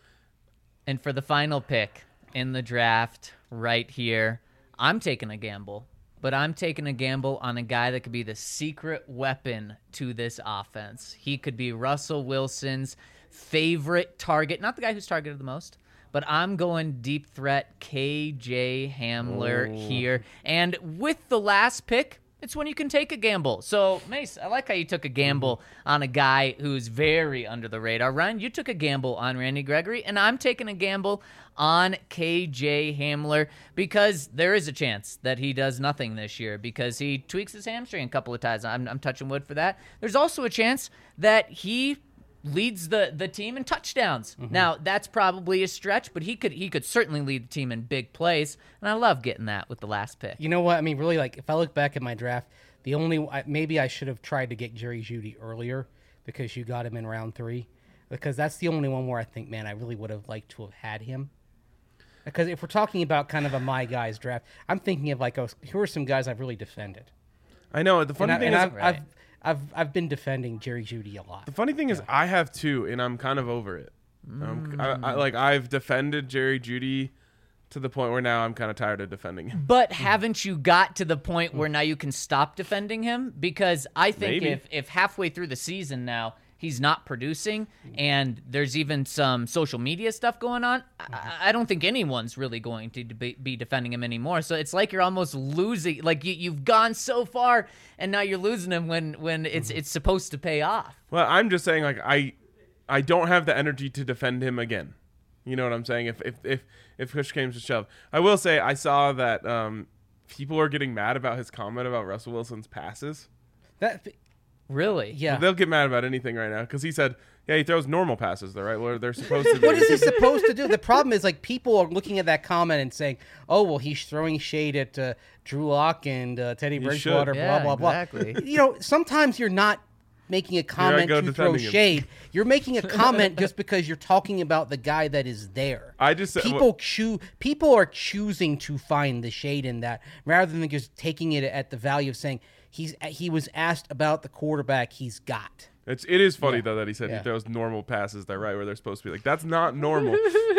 A: And for the final pick in the draft right here, I'm taking a gamble. But I'm taking a gamble on a guy that could be the secret weapon to this offense. He could be Russell Wilson's favorite target. Not the guy who's targeted the most, but I'm going deep threat K J Hamler here. And with the last pick, it's when you can take a gamble. So, Mace, I like how you took a gamble on a guy who's very under the radar. Ryan, you took a gamble on Randy Gregory, and I'm taking a gamble on K J Hamler because there is a chance that he does nothing this year because he tweaks his hamstring a couple of times. I'm, I'm touching wood for that. There's also a chance that he leads the, the team in touchdowns. Now, that's probably a stretch, but he could he could certainly lead the team in big plays, and I love getting that with the last pick.
D: You know what? I mean, really, like, if I look back at my draft, the only I- maybe I should have tried to get Jerry Jeudy earlier because you got him in round three, because that's the only one where I think, man, I really would have liked to have had him. Because if we're talking about kind of a my guys draft, I'm thinking of like, oh, here are some guys I've really defended.
C: I know. The funny
D: And, I,
C: thing
D: and
C: is,
D: I've,
A: Right.
D: I've I've I've been defending Jerry Jeudy a lot.
C: the funny thing is, I have two, and I'm kind of over it. Um, I, I,
A: Mm.
C: like I've defended Jerry Jeudy to the point where now I'm kind of tired of defending him.
A: But haven't you got to the point where now you can stop defending him? Because I think
C: Maybe.
A: if, if halfway through the season now he's not producing and there's even some social media stuff going on, I, I don't think anyone's really going to be, be defending him anymore. So it's like you're almost losing. Like you, you've gone so far and now you're losing him when, when it's it's supposed to pay off.
C: Well, I'm just saying, like I, I don't have the energy to defend him again. You know what I'm saying? If if if if push came to shove, I will say I saw that um, people are getting mad about his comment about Russell Wilson's passes.
D: That
A: Really?
D: yeah.
C: They'll get mad about anything right now because he said, "Yeah, he throws normal passes, though, right? Where they're supposed to."
D: What
C: do.
D: is he supposed to do? The problem is, like, people are looking at that comment and saying, "Oh, well, he's throwing shade at uh, Drew Lock and uh, Teddy Bridgewater."
A: should.
D: Blah
A: Yeah,
D: blah blah.
A: exactly.
D: You know, sometimes you're not making a comment
C: go
D: to throw
C: defending him.
D: shade. You're making a comment just because you're talking about the guy that is there.
C: I just said-
D: people choo- People are choosing to find the shade in that rather than just taking it at the value of saying he's he was asked about the quarterback he's got.
C: It's it is funny though that he said
D: Yeah.
C: he throws normal passes there, right, where they're supposed to be. Like that's not normal.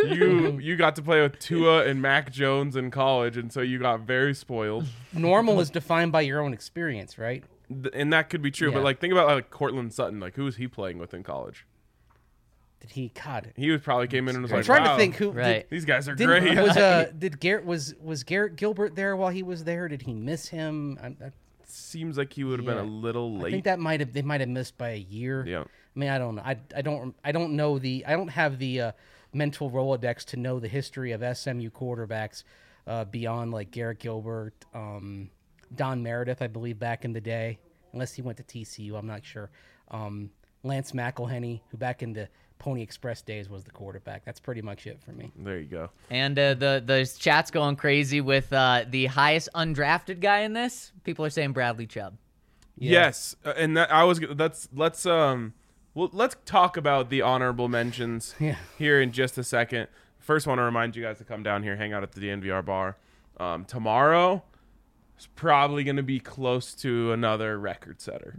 C: you you got to play with Tua and Mac Jones in college, and so you got very spoiled.
D: Normal is defined by your own experience, right?
C: Th- and that could be true, but
D: Yeah.
C: like think about like Cortland Sutton. Like who was he playing with in college?
D: Did he? God,
C: He was probably came in and was
D: I'm
C: like,
D: trying
C: wow,
D: to think who.
A: Right.
C: these guys are
D: Did,
C: great.
D: did, was uh did Garrett was was Garrett Gilbert there while he was there? Did he miss him? I, I,
C: Seems like he would have been
D: Yeah.
C: a little
D: I
C: late.
D: think that might have they might have missed by a year.
C: Yeah.
D: I mean, I don't know. I, I don't I don't know the I don't have the uh, mental Rolodex to know the history of S M U quarterbacks uh, beyond like Garrett Gilbert, um, Don Meredith, I believe back in the day, unless he went to T C U, I'm not sure. Um, Lance McElhenney, who back in the Pony Express days was the quarterback. That's pretty much it for me.
C: There you go.
A: And uh, the the chat's going crazy with uh, the highest undrafted guy in this. People are saying Bradley Chubb.
C: Yes, uh, and that I was. Let's let's um, well let's talk about the honorable mentions
D: Yeah.
C: here in just a second. First, want to remind you guys to come down here, hang out at the D N V R bar. Um, tomorrow is probably going to be close to another record setter.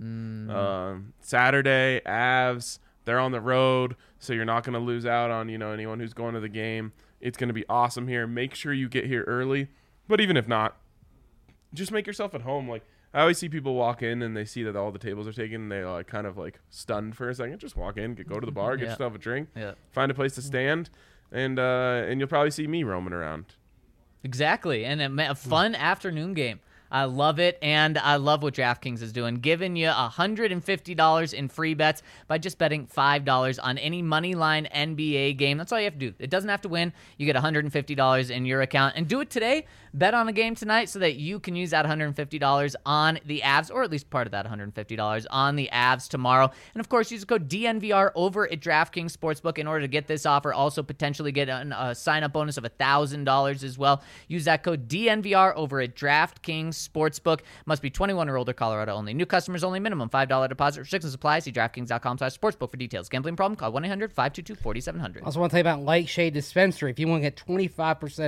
C: Um, Saturday, Avs. They're on the road, so you're not going to lose out on, you know, anyone who's going to the game. It's going to be awesome here. Make sure you get here early. But even if not, just make yourself at home. Like, I always see people walk in and they see that all the tables are taken and they're like kind of like stunned for a second. Just walk in, get, go to the bar, get
A: Yeah.
C: yourself a drink,
A: Yeah.
C: find a place to stand, and uh, and you'll probably see me roaming around.
A: Exactly. And a, ma- a fun afternoon game. I love it, and I love what DraftKings is doing, giving you one hundred fifty dollars in free bets by just betting five dollars on any Moneyline N B A game. That's all you have to do. It doesn't have to win. You get one hundred fifty dollars in your account, and do it today. Bet on a game tonight so that you can use that one hundred fifty dollars on the Avs, or at least part of that one hundred fifty dollars on the Avs tomorrow. And, of course, use the code D N V R over at DraftKings Sportsbook in order to get this offer. Also, potentially get an, a sign-up bonus of one thousand dollars as well. Use that code D N V R over at DraftKings Sportsbook. Must be twenty-one or older, Colorado only. New customers only. Minimum five dollars deposit. Restrictions apply. See DraftKings.com slash sportsbook for details. Gambling problem? Call one eight hundred five two two four seven zero
D: I
A: zero.
D: also want to tell you about Light Shade Dispensary. If you want to get twenty-five percent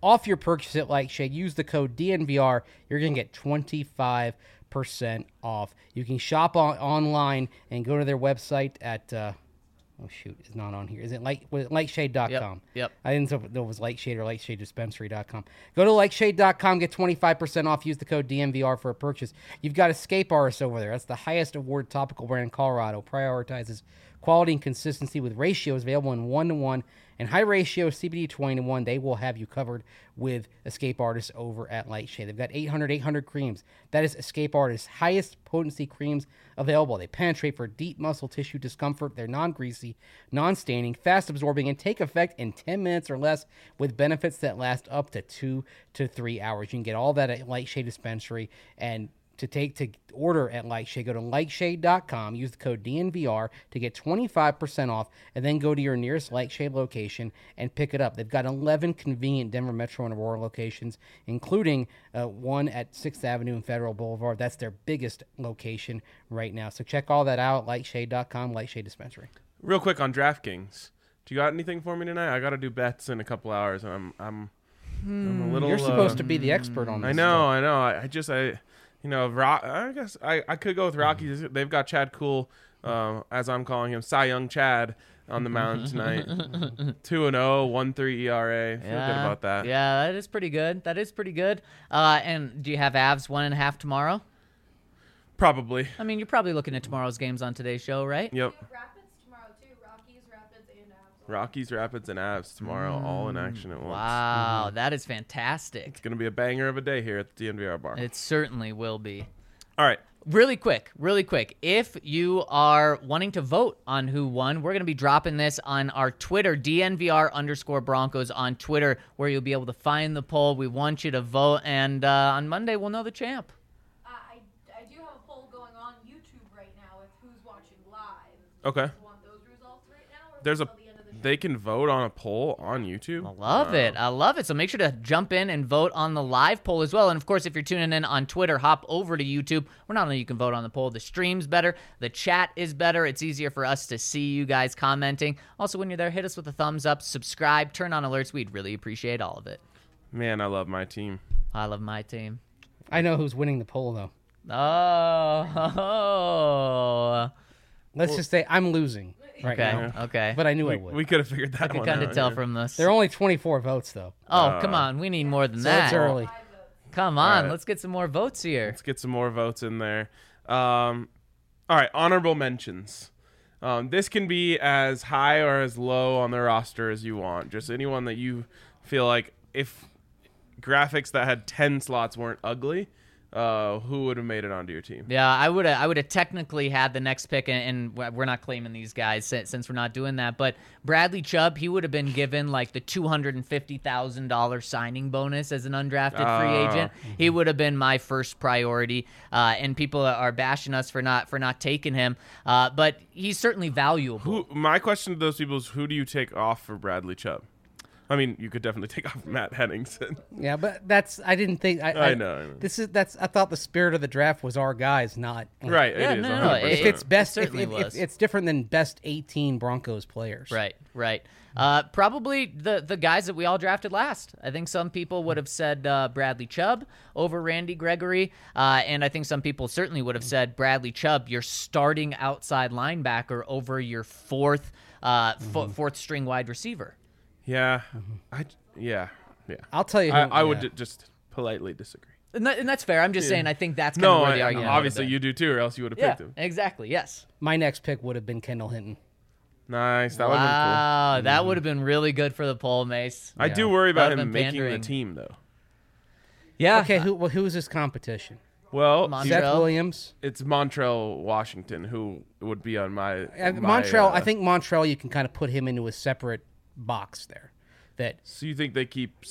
D: off your purchase at Light Shade. Use the code D N V R. You're going to get twenty-five percent off. You can shop on, online and go to their website at... Uh, oh, shoot. It's not on here. Is it, light, was it lightshade dot com?
A: Yep, yep.
D: I didn't know if it was Lightshade or lightshade dispensary dot com. Go to lightshade dot com, get twenty-five percent off. Use the code D N V R for a purchase. You've got Escape Artist over there. That's the highest award topical brand in Colorado. Prioritizes quality and consistency with ratios available in one to one and high ratio C B D twenty to one. They will have you covered with Escape Artist over at Lightshade. They've got eight hundred, eight hundred creams. That is Escape Artist's highest potency creams available. They penetrate for deep muscle tissue discomfort. They're non-greasy, non-staining, fast-absorbing, and take effect in ten minutes or less with benefits that last up to two to three hours. You can get all that at Lightshade Dispensary. And to take to order at Lightshade, go to lightshade dot com, use the code D N V R to get twenty-five percent off, and then go to your nearest Lightshade location and pick it up. They've got eleven convenient Denver Metro and Aurora locations, including uh, one at sixth Avenue and Federal Boulevard. That's their biggest location right now. So check all that out, lightshade dot com, Lightshade Dispensary.
C: Real quick on DraftKings. Do you got anything for me tonight? I got to do bets in a couple hours. I'm I'm, I'm a little.
D: You're supposed
C: uh,
D: to be the expert on this.
C: I know, I know. I, I just I. You know, Rock, I guess I, I could go with Rockies. They've got Chad Cool, uh, as I'm calling him, Cy Young Chad, on the mound tonight. two and oh, one point three E R A. Feel
A: yeah.
C: good about that.
A: Yeah, that is pretty good. That is pretty good. Uh, and do you have Avs one and a half tomorrow?
C: Probably.
A: I mean, you're probably looking at tomorrow's games on today's show, right?
C: Yep.
E: Rapids tomorrow too. Rockies, Rapids, and Avs.
C: Rockies, Rapids, and Avs tomorrow, all in action at once.
A: Wow, that is fantastic.
C: It's going to be a banger of a day here at the D N V R bar.
A: It certainly will be.
C: All right.
A: Really quick, really quick. If you are wanting to vote on who won, we're going to be dropping this on our Twitter, D N V R underscore Broncos on Twitter, where you'll be able to find the poll. We want you to vote, and uh, on Monday we'll know the champ.
E: Uh, I, I do have a poll going on YouTube right now with who's watching live.
C: Okay.
E: Do you want those results right now, or
C: There's a.
E: until the end of the show?
C: They can vote on a poll on YouTube.
A: I love it. I love it. So make sure to jump in and vote on the live poll as well. And of course, if you're tuning in on Twitter, hop over to YouTube, where not only you can vote on the poll, the stream's better, the chat is better. It's easier for us to see you guys commenting. Also, when you're there, hit us with a thumbs up, subscribe, turn on alerts. We'd really appreciate all of it.
C: Man, I love my team.
A: I love my team.
D: I know who's winning the poll, though.
A: Oh.
D: Let's just say I'm losing right
A: Okay.
D: now.
A: Okay.
D: But I knew
C: We,
D: I would.
C: we could have figured
A: I
C: that
A: could
C: one
A: kind
C: out.
A: of tell
C: yeah.
A: from this.
D: There are only twenty-four votes, though.
A: Oh, come on. We need more than
D: So
A: that.
D: it's early.
E: Five votes.
A: Come on.
C: right.
A: Let's get some more votes here.
C: Let's get some more votes in there. Um, all right, honorable mentions. Um, this can be as high or as low on the roster as you want. Just anyone that you feel like, if graphics that had ten slots weren't ugly, uh, who would have made it onto your team?
A: Yeah, I would have. I would have technically had the next pick, and, and we're not claiming these guys since, since we're not doing that. But Bradley Chubb, he would have been given like the two hundred and fifty thousand dollar signing bonus as an undrafted free
C: Oh.
A: agent. He would have been my first priority. Uh, and people are bashing us for not for not taking him. Uh, but he's certainly valuable.
C: Who? My question to those people is, who do you take off for Bradley Chubb? I mean, you could definitely take off Matt Henningsen.
D: Yeah, but that's I didn't think I,
C: I know, I know.
D: This is that's I thought the spirit of the draft was our guys, not
C: Right,
A: Yeah,
C: it is.
A: no, no,
C: one
A: no,
C: hundred
A: it-
C: percent.
D: If it's best, if,
A: certainly
D: if, if
A: was.
D: it's different than best eighteen Broncos players.
A: Right, right. Uh, probably the the guys that we all drafted last. I think some people would have said uh, Bradley Chubb over Randy Gregory, uh, and I think some people certainly would have said Bradley Chubb, your starting outside linebacker, over your fourth uh, fo- fourth string wide receiver.
C: Yeah, I yeah yeah.
D: I'll tell you. Who,
C: I, I would
D: yeah.
C: d- just politely disagree.
A: And, that, and that's fair. I'm just saying I think that's kind of
C: No,
A: where
C: I,
A: the argument. would have
C: obviously
A: been.
C: you do too, or else you would have
A: Yeah,
C: picked him.
A: exactly. Yes.
D: My next pick would have been Kendall Hinton.
C: Nice, that would have been cool.
A: Wow, that would have been really good for the poll, Mace.
C: I
D: Yeah.
C: do worry about
A: That would've
C: him
A: been
C: making
A: pandering.
C: the team, though.
A: Yeah.
D: Okay, who well, who's his competition?
C: Well,
A: Mon-
D: Seth
A: Montrell?
D: Williams.
C: it's Montrell Washington who would be on my.
D: Uh,
C: my,
D: Montrell,
C: uh,
D: I think Montrell, you can kind of put him into a separate box there. That
C: So you think they keep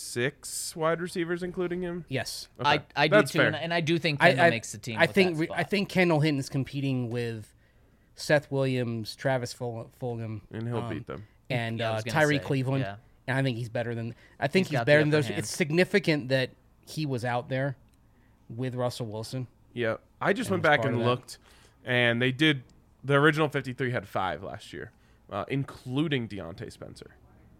C: six wide receivers, including him?
D: yes,
C: Okay.
A: I, I do
C: That's
A: too,
C: fair.
A: and, and I do think
D: I,
A: Kendall
D: I
A: makes the team.
D: I
A: with
D: think
A: that
D: re-
A: spot.
D: I think Kendall Hinton's competing with Seth Williams, Travis Ful- Fulgham,
C: and he'll
D: um,
C: beat them.
D: and
A: Yeah, I
D: uh,
A: was gonna
D: Tyree
A: say,
D: Cleveland.
A: yeah.
D: And I think he's better than. I think
A: He's
D: he's,
A: got the
D: better than
A: upper
D: those.
A: hand.
D: It's significant that he was out there with Russell Wilson.
C: Yeah, I just
D: And
C: went
D: was
C: back
D: part
C: and
D: of that.
C: looked, and they did. The original fifty-three had five last year, uh, including Deontay Spencer.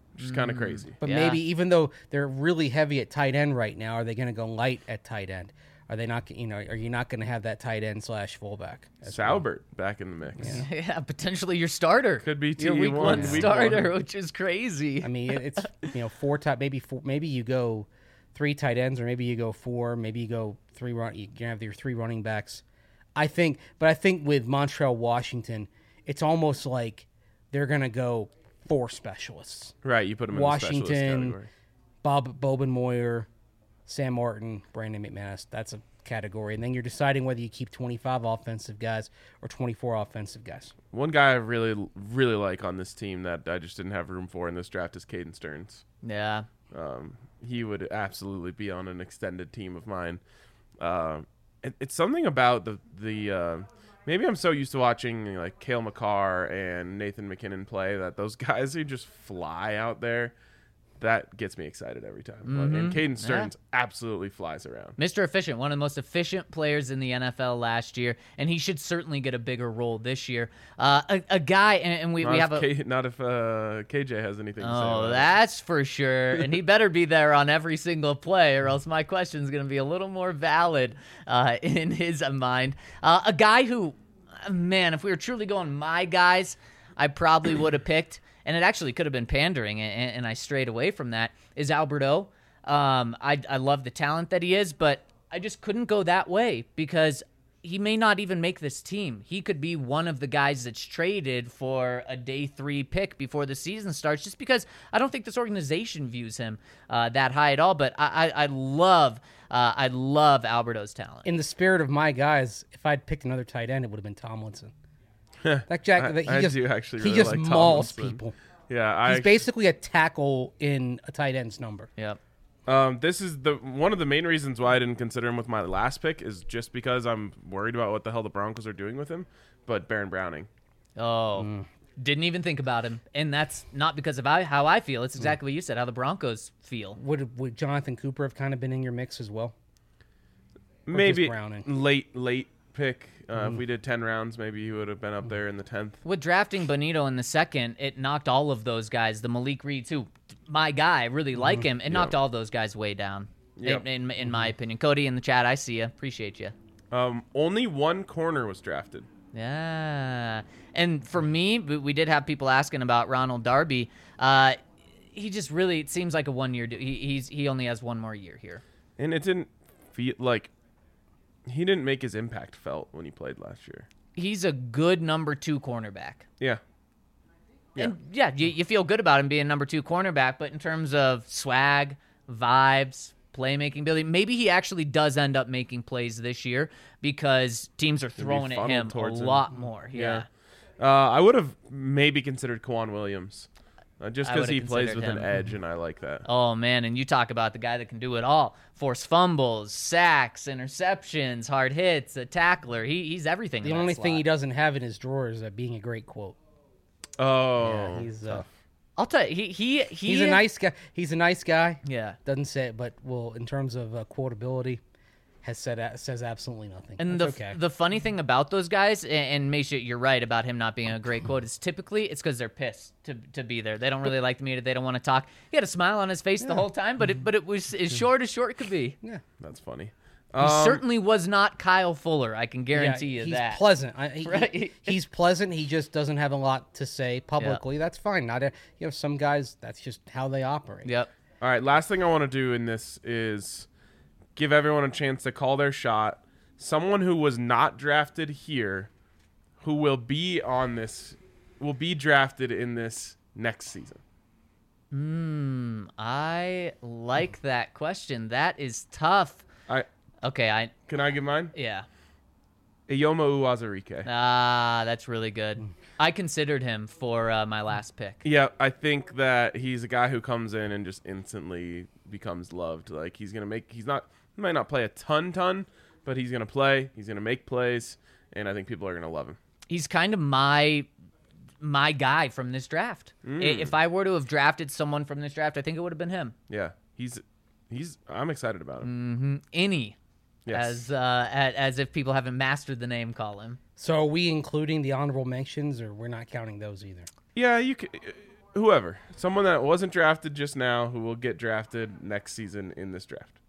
C: which is kind of crazy.
D: But
A: Yeah.
D: maybe even though they're really heavy at tight end right now, are they going to go light at tight end? Are they not? You know, are you not going to have that tight end slash fullback? as well?
C: Salbert back in the mix.
A: Yeah, potentially your starter.
C: Could be
A: your
C: T
A: week
C: one,
A: one
C: week
A: starter,
C: one.
A: which is crazy.
D: I mean, it- it's you know four tight, maybe four, maybe you go three tight ends, or maybe you go four, maybe you go three run. You can have your three running backs. I think, but I think with Montreal Washington, it's almost like they're going to go four specialists:
C: Right, you put him in the specialist
D: Washington,
C: category.
D: Bob Bobin Moyer, Sam Martin, Brandon McManus. That's a category, and then you're deciding whether you keep twenty-five offensive guys or twenty-four offensive guys.
C: One guy I really, really like on this team that I just didn't have room for in this draft is Caden Stearns.
A: Yeah.
C: Um, he would absolutely be on an extended team of mine. Uh, it, it's something about the the uh, maybe I'm so used to watching like Cale McCarr and Nathan McKinnon play that those guys who just fly out there, that gets me excited every time. Like, and Caden Stearns absolutely flies around.
A: Mister Efficient, one of the most efficient players in the N F L last year, and he should certainly get a bigger role this year. Uh, a, a guy, and, and we,
C: Not
A: we
C: if
A: have a.
C: K, not if uh, K J has anything to say.
A: Oh,
C: about it.
A: that's for sure. And he better be there on every single play, or else my question is going to be a little more valid uh, in his mind. Uh, a guy who, man, if we were truly going my guys, I probably would have picked, and it actually could have been pandering, and, and I strayed away from that, is Alberto. Um, I, I love the talent that he is, but I just couldn't go that way because he may not even make this team. He could be one of the guys that's traded for a day three pick before the season starts, just because I don't think this organization views him uh, that high at all. But I, I, I love, uh, I love Alberto's talent.
D: In the spirit of my guys, if I'd picked another tight end, it would have been Tomlinson. That Jack,
C: I-
D: that he
C: I
D: just
C: do actually
D: he
C: really
D: just
C: like
D: mauls
C: Tomlinson.
D: people.
C: Yeah, I
D: He's
C: actu-
D: basically a tackle in a tight end's number.
A: Yep.
C: Um, this is the one of the main reasons why I didn't consider him with my last pick is just because I'm worried about what the hell the Broncos are doing with him. But Baron Browning,
A: Oh, didn't even think about him, and that's not because of I, how I feel. It's exactly what you said. How the Broncos feel.
D: Would would Jonathan Cooper have kind of been in your mix as well?
C: maybe
D: Browning?
C: late late pick. Uh, If we did ten rounds, maybe he would have been up there in the tenth.
A: With drafting Bonito in the second, it knocked all of those guys. The Malik Reed too, my guy. I really like him. It knocked all those guys way down.
C: Yep.
A: In, in, in my opinion, Cody in the chat, I see you. Appreciate you.
C: Um, only one corner was drafted.
A: Yeah. And for me, we we did have people asking about Ronald Darby. Uh, he just really, it seems like a one year. He he's he only has one more year here.
C: And it didn't feel like he didn't make his impact felt when he played last year.
A: He's a good number two cornerback.
C: Yeah. Yeah.
A: And yeah, you, you feel good about him being number two cornerback, but in terms of swag, vibes, playmaking ability, maybe he actually does end up making plays this year because teams are throwing at
C: funneled
A: him a
C: towards him.
A: lot more. Yeah.
C: Uh, I would have maybe considered Kwan Williams, uh, just
A: I
C: because
A: would've
C: he plays
A: considered
C: with an
A: him.
C: edge, and I like that.
A: Oh, man, and you talk about the guy that can do it all. Force fumbles, sacks, interceptions, hard hits, a tackler. He, he's everything.
D: The
A: in that
D: only thing he
A: slot.
D: doesn't have in his drawer is uh, being a great quote.
C: Oh,
D: Yeah, he's uh,
A: I'll tell you, he, he, he
D: he's a nice guy. He's a nice guy.
A: Yeah.
D: Doesn't say it, but well, in terms of uh, quotability, has said a- says absolutely nothing.
A: And the
D: That's okay.
A: the funny thing about those guys, and, and Misha, you're right about him not being a great quote, is typically it's because they're pissed to to be there. They don't really like the media. They don't want to talk. He had a smile on his face the whole time, but it but it was as short as short could be.
D: yeah.
C: that's funny.
A: He
C: Um,
A: certainly was not Kyle Fuller. I can
D: Yeah,
A: guarantee you
D: he's
A: that.
D: pleasant. I, he,
A: Right.
D: He's pleasant. He just doesn't have a lot to say publicly. That's fine. Not a, you know, some guys. That's just how they operate.
A: Yep.
C: All right, last thing I want to do in this is give everyone a chance to call their shot. Someone who was not drafted here, who will be on this, will be drafted in this next season.
A: Hmm. I like that question. That is tough.
C: I
A: Okay. I
C: can I give mine?
A: yeah.
C: Iyoma Uwazurike.
A: Ah, that's really good. I considered him for uh, my last pick.
C: Yeah, I think that he's a guy who comes in and just instantly becomes loved. Like he's gonna make. He's not. He might not play a ton, ton, but he's gonna play. He's gonna make plays, and I think people are gonna love him.
A: He's kind of my my guy from this draft. I
C: Mm.
A: If I were to have drafted someone from this draft, I think it would have been him.
C: Yeah, he's he's. I'm excited about him.
A: Any,
C: Yes.
A: as uh, as, as if people haven't mastered the name, call him.
D: So are we including the honorable mentions, or we're not counting those either?
C: Yeah, you. Can, whoever, someone that wasn't drafted just now who will get drafted next season in this draft.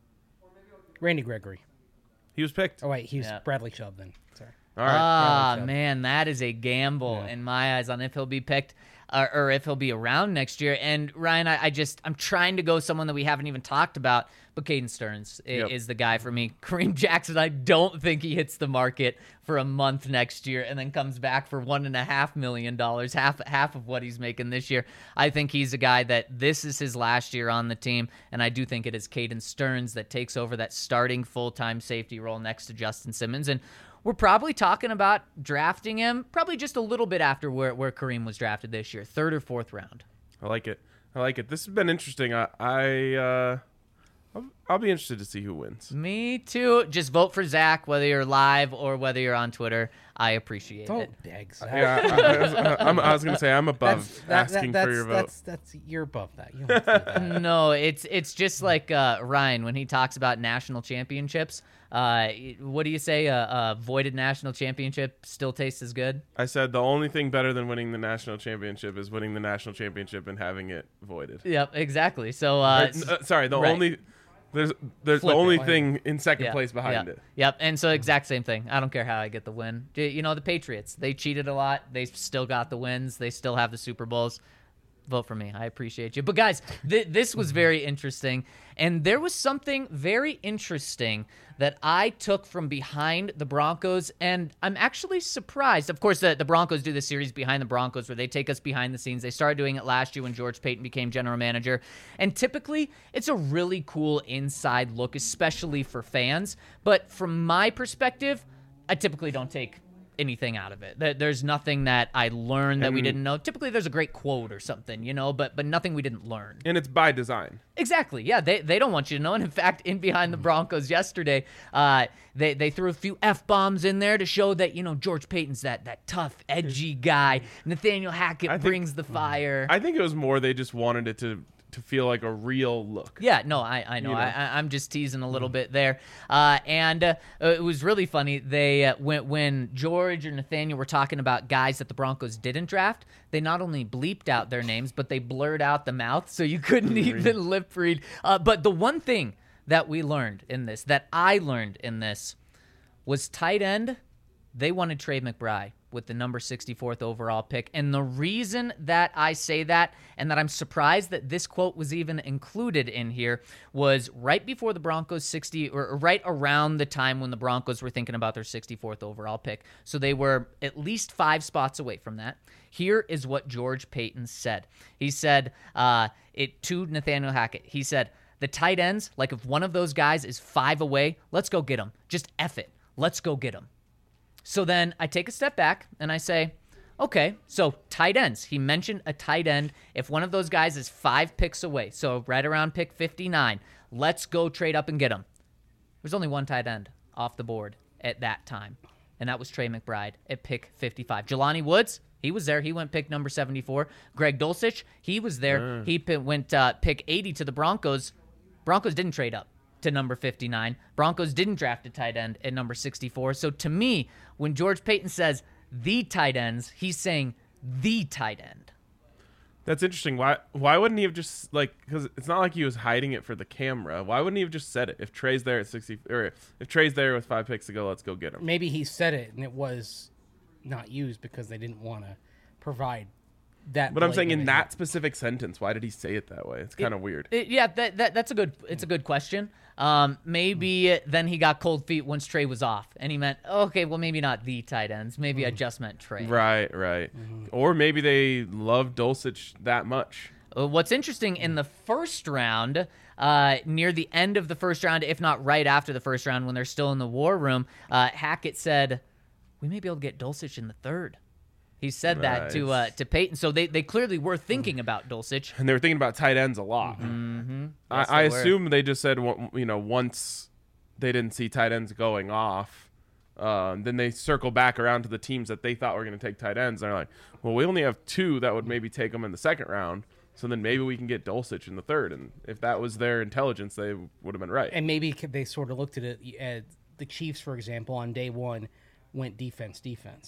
D: Randy Gregory.
C: He was picked.
D: Oh wait, he was
A: Yeah.
D: Bradley Chubb then. Sorry.
C: All right.
A: Ah,
D: Bradley Chubb.
A: man, that is a gamble in my eyes on if he'll be picked uh, or if he'll be around next year. And Ryan, I, I just I'm trying to go someone that we haven't even talked about, but Caden Stearns i-
C: Yep.
A: is the guy for me. Kareem Jackson, I don't think he hits the market for a month next year and then comes back for one and a half million dollars, half half of what he's making this year. I think he's a guy that this is his last year on the team, and I do think it is Caden Stearns that takes over that starting full-time safety role next to Justin Simmons. And we're probably talking about drafting him probably just a little bit after where, where Kareem was drafted this year, third or fourth round.
C: I like it. I like it. This has been interesting. I, I uh, I'll, I'll be interested to see who wins.
A: Me too. Just vote for Zach, whether you're live or whether you're on Twitter. I appreciate it.
D: Don't beg. Zach.
C: Yeah, I, I, was- I'm, I was gonna say I'm above
D: That's, that, that,
C: asking
D: that's,
C: for your vote.
D: that's, that's, you're above that. You don't have to do that.
A: No, it's it's just like uh, Ryan when he talks about national championships. Uh, what do you say? A uh, uh, voided national championship still tastes as good.
C: I said the only thing better than winning the national championship is winning the national championship and having it voided.
A: Yep, exactly. So uh,
C: Or, uh, sorry, the
A: right.
C: only there's there's
A: Flip
C: the
A: it.
C: only thing in second
A: yeah,
C: place behind
A: yeah,
C: it.
A: Yep, and so exact same thing. I don't care how I get the win. J- You know, the Patriots, they cheated a lot. They still got the wins. They still have the Super Bowls. Vote for me. I appreciate you. But guys, th- this was very interesting. And there was something very interesting that I took from behind the Broncos. And I'm actually surprised. Of course, the, the Broncos do this series Behind the Broncos where they take us behind the scenes. They started doing it last year when George Payton became general manager. And typically, it's a really cool inside look, especially for fans. But from my perspective, I typically don't take anything out of it. There- There's nothing that I learned that we
C: And-
A: didn't know. Typically, there's a great quote or something, you know, but but nothing we didn't learn.
C: And it's by design.
A: Exactly. Yeah, they, they don't want you to know. And in fact, in Behind the Broncos yesterday, uh, they, they threw a few F-bombs in there to show that, you know, George Payton's that, that tough, edgy guy. Nathaniel Hackett
C: I think-
A: brings the fire.
C: I think it was more they just wanted it to to feel like a real look.
A: Yeah, no, I, I know.
C: You know.
A: I, I, I'm just teasing a little bit there. Uh, and uh, it was really funny. They uh, when, when George and Nathaniel were talking about guys that the Broncos didn't draft, they not only bleeped out their names, but they blurred out the mouth so you couldn't even lip read. Uh, but the one thing that we learned in this, that I learned in this, was tight end. They wanted Trey McBride with the number sixty-fourth overall pick. And the reason that I say that and that I'm surprised that this quote was even included in here was right before the Broncos sixty or right around the time when the Broncos were thinking about their sixty-fourth overall pick. So they were at least five spots away from that. Here is what George Payton said. He said uh, it to Nathaniel Hackett. He said, the tight ends, like if one of those guys is five away, let's go get him. Just F it. Let's go get him. So then I take a step back and I say, okay, so tight ends. He mentioned a tight end. If one of those guys is five picks away, so right around pick fifty-nine, let's go trade up and get him. There's only one tight end off the board at that time, and that was Trey McBride at pick fifty-five. Jelani Woods, he was there. He went pick number seventy-four. Greg Dulcich, he was there.
C: Mm.
A: He p- went uh, pick eighty to the Broncos. Broncos didn't trade up to number fifty-nine. Broncos didn't draft a tight end at number sixty-four. So to me, when George Payton says the tight ends, he's saying the tight end.
C: That's interesting. Why why wouldn't he have just like because it's not like he was hiding it for the camera. Why wouldn't he have just said it? If Trey's there at sixty or if Trey's there with five picks to go, let's go get him.
D: Maybe he said it and it was not used because they didn't want to provide that.
C: But I'm saying in
D: blatant
C: that specific sentence, why did he say it that way? It's kind of weird.
A: It- yeah, that, that that's a good it's a good question. Um, maybe then he got cold feet once Trey was off, and he meant okay, well maybe not the tight ends, maybe I just meant Trey.
C: Right, right. Or maybe they love Dulcich that much.
A: Uh, What's interesting in the first round, uh, near the end of the first round, if not right after the first round, when they're still in the war room, uh, Hackett said, "We may be able to get Dulcich in the third." He said that to uh,
C: Nice.
A: to Peyton, so they, they clearly were thinking about Dulcich.
C: And they were thinking about tight ends a lot.
A: Mm-hmm.
C: I,
A: Yes,
C: I
A: they were.
C: assume they just said, well, you know, once they didn't see tight ends going off, um, then they circle back around to the teams that they thought were going to take tight ends. And they're like, well, we only have two that would maybe take them in the second round. So then maybe we can get Dulcich in the third. And if that was their intelligence, they would have been right.
D: And maybe c- they sort of looked at it. At the Chiefs, for example, on day one, went defense, defense.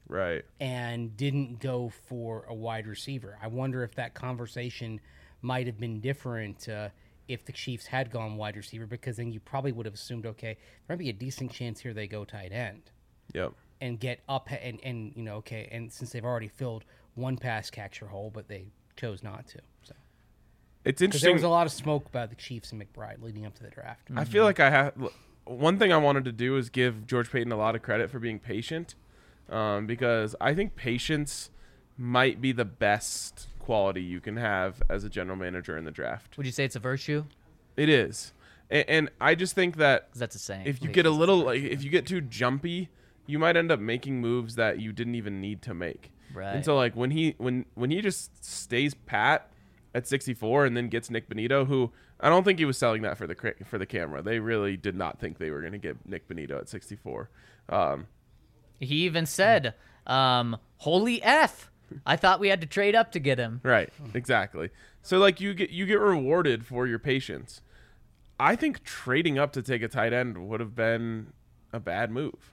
C: Right.
D: and didn't go for a wide receiver. I wonder if that conversation might have been different uh, if the Chiefs had gone wide receiver, because then you probably would have assumed, okay, there might be a decent chance here they go tight end
C: Yep.
D: and get up and, and you know, okay, and since they've already filled one pass catcher hole, but they chose not to. So
C: It's
D: because there
C: interesting.
D: was a lot of smoke about the Chiefs and McBride leading up to the draft.
C: I feel like I have one thing I wanted to do is give George Payton a lot of credit for being patient, um, because I think patience might be the best quality you can have as a general manager in the draft.
A: Would you say it's a virtue?
C: It is, and, and I just think that
A: 'Cause that's a saying.
C: if you
A: Wait,
C: get a
A: is it
C: little,
A: a
C: like,
A: virtue?
C: if you get too jumpy, you might end up making moves that you didn't even need to make.
A: Right.
C: And so, like when he when when he just stays pat at sixty-four and then gets Nick Bonito, who I don't think he was selling that for the cra- for the camera. They really did not think they were going to get Nick Bonito at sixty-four. Um,
A: He even said, um, "Holy F! I thought we had to trade up to get him."
C: right, exactly. So like you get you get rewarded for your patience. I think trading up to take a tight end would have been a bad move.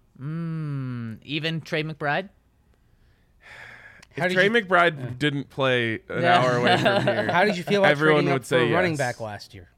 A: Mm, even Trey McBride.
D: How
C: If
D: did
C: Trey
D: you-
C: McBride didn't play an
A: Yeah.
C: hour away from here,
D: How did you feel about
C: everyone
D: trading
C: would
D: up
C: say
D: for a running
C: yes.
D: back last year?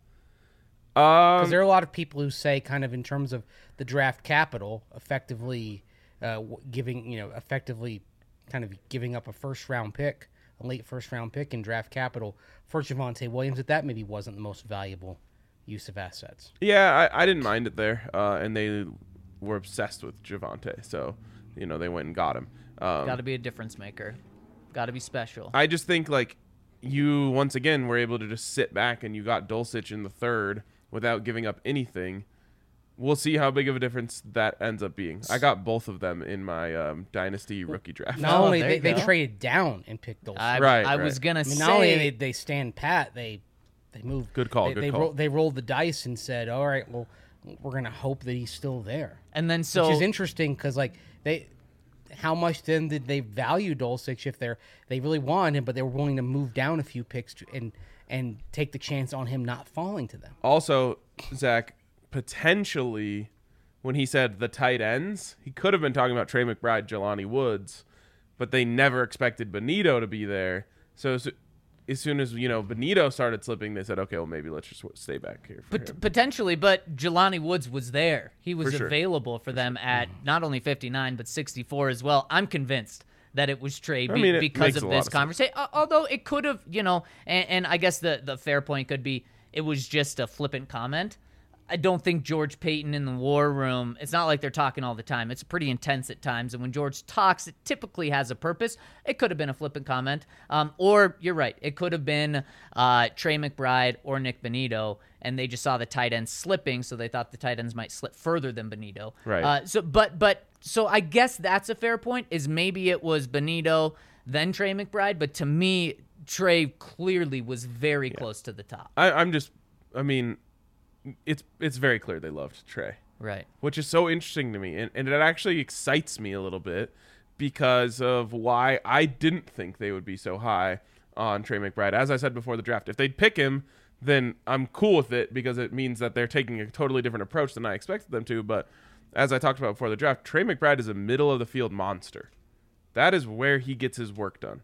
D: Because
C: Um,
D: there are a lot of people who say, kind of in terms of the draft capital, effectively uh, w- giving, you know, effectively kind of giving up a first round pick, a late first round pick in draft capital for Javonte Williams, that that maybe wasn't the most valuable use of assets.
C: Yeah, I, I didn't mind it there, uh, and they were obsessed with Javonte, so you know they went and got him. Um,
A: Got to be a difference maker. Got to be special.
C: I just think like you once again were able to just sit back and you got Dulcich in the third without giving up anything. We'll see how big of a difference that ends up being. I got both of them in my um, dynasty rookie draft.
D: Not
A: Oh,
D: only
A: there
D: they,
A: you
D: they
A: go.
D: traded down and picked those.
A: I,
C: Right,
A: I
C: right.
A: was gonna
D: I mean,
A: say.
D: not only they, they stand pat, they they move.
C: Good call,
D: They,
C: good
D: they,
C: call.
D: Roll, they rolled the dice and said, "All right, well, we're gonna hope that he's still there."
A: and then so
D: Which is interesting because, like, they, how much then did they value Dulcich if they're they really wanted him, but they were willing to move down a few picks to, and and take the chance on him not falling to them.
C: Also, Zach, potentially, when he said the tight ends, he could have been talking about Trey McBride, Jelani Woods, but they never expected Bonito to be there. So as, as soon as, you know, Bonito started slipping, they said, okay, well, maybe let's just stay back here for
A: Pot-
C: him.
A: potentially, but Jelani Woods was there. He was
C: For sure.
A: available for them at not only fifty-nine but sixty-four as well. I'm convinced that it was Trey be-
C: I mean, it
A: because
C: makes
A: of
C: a lot
A: this
C: of sense.
A: conversation. Although it could have, you know, and, and I guess the the fair point could be it was just a flippant comment. I don't think George Payton in the war room, it's not like they're talking all the time. It's pretty intense at times. And when George talks, it typically has a purpose. It could have been a flippant comment. Um, or you're right. It could have been uh, Trey McBride or Nick Bonito. And they just saw the tight ends slipping. So they thought the tight ends might slip further than Bonito.
C: Right.
A: Uh, so, but, but, so I guess that's a fair point is maybe it was Bonito, then Trey McBride. But to me, Trey clearly was very close to the top.
C: I, I'm just, I mean, it's it's very clear they loved Trey,
A: Right.
C: which is so interesting to me. And, and it actually excites me a little bit because of why I didn't think they would be so high on Trey McBride. As I said before the draft, if they'd pick him, then I'm cool with it because it means that they're taking a totally different approach than I expected them to. But as I talked about before the draft, Trey McBride is a middle of the field monster. That is where he gets his work done.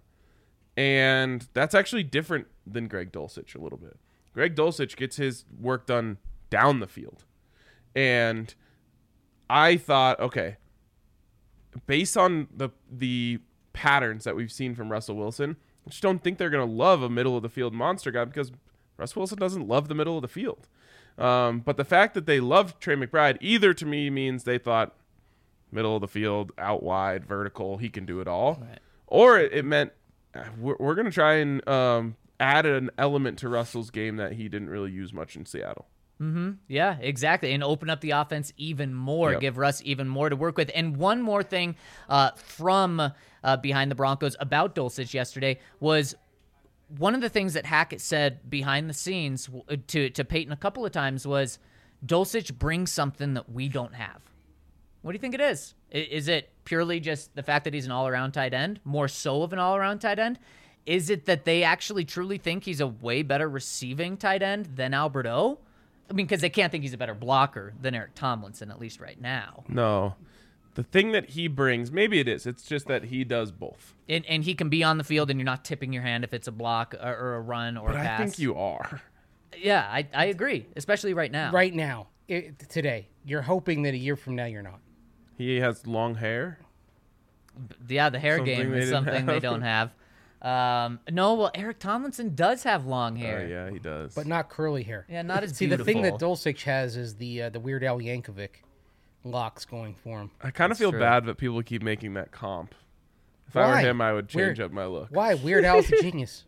C: And that's actually different than Greg Dulcich a little bit. Greg Dulcich gets his work done down the field. And I thought, okay, based on the the patterns that we've seen from Russell Wilson, I just don't think they're going to love a middle of the field monster guy because Russell Wilson doesn't love the middle of the field. Um, but the fact that they loved Trey McBride either to me means they thought middle of the field, out wide, vertical, he can do it all.
A: Right.
C: Or it, it meant uh, we're, we're going to try and um, add an element to Russell's game that he didn't really use much in Seattle.
A: Yeah, exactly. And open up the offense even more,
C: Yep.
A: give Russ even more to work with. And one more thing uh, from uh, behind the Broncos about Dulcich yesterday was one of the things that Hackett said behind the scenes w- to, to Peyton a couple of times was Dulcich brings something that we don't have. What do you think it is? I- Is it purely just the fact that he's an all-around tight end, more so of an all-around tight end? Is it that they actually truly think he's a way better receiving tight end than Albert O? I mean, because they can't think he's a better blocker than Eric Tomlinson, at least right now.
C: No. the thing that he brings, maybe it is. It's just that he does both.
A: And, and he can be on the field, and you're not tipping your hand if it's a block or, or a run or
C: But
A: a
C: I
A: pass.
C: think you are.
A: Yeah, I, I agree, especially right now.
D: Right now, it, today, you're hoping that a year from now you're not.
C: He has long hair.
A: Yeah, the hair
C: Something
A: game
C: they
A: is
C: didn't
A: something they
C: have.
A: don't have. Um, no, well, Eric Tomlinson does have long
C: Oh,
A: hair.
C: yeah, he does.
D: But not curly hair.
A: Yeah, not as
D: See,
A: beautiful.
D: the thing that Dulcich has is the uh, the Weird Al Yankovic locks going for him.
C: I kind of
A: That's
C: feel
A: true.
C: bad that people keep making that comp. If I were
D: Why?
C: him, I would change
D: Weird.
C: up my look.
D: Why? Weird Al's a genius.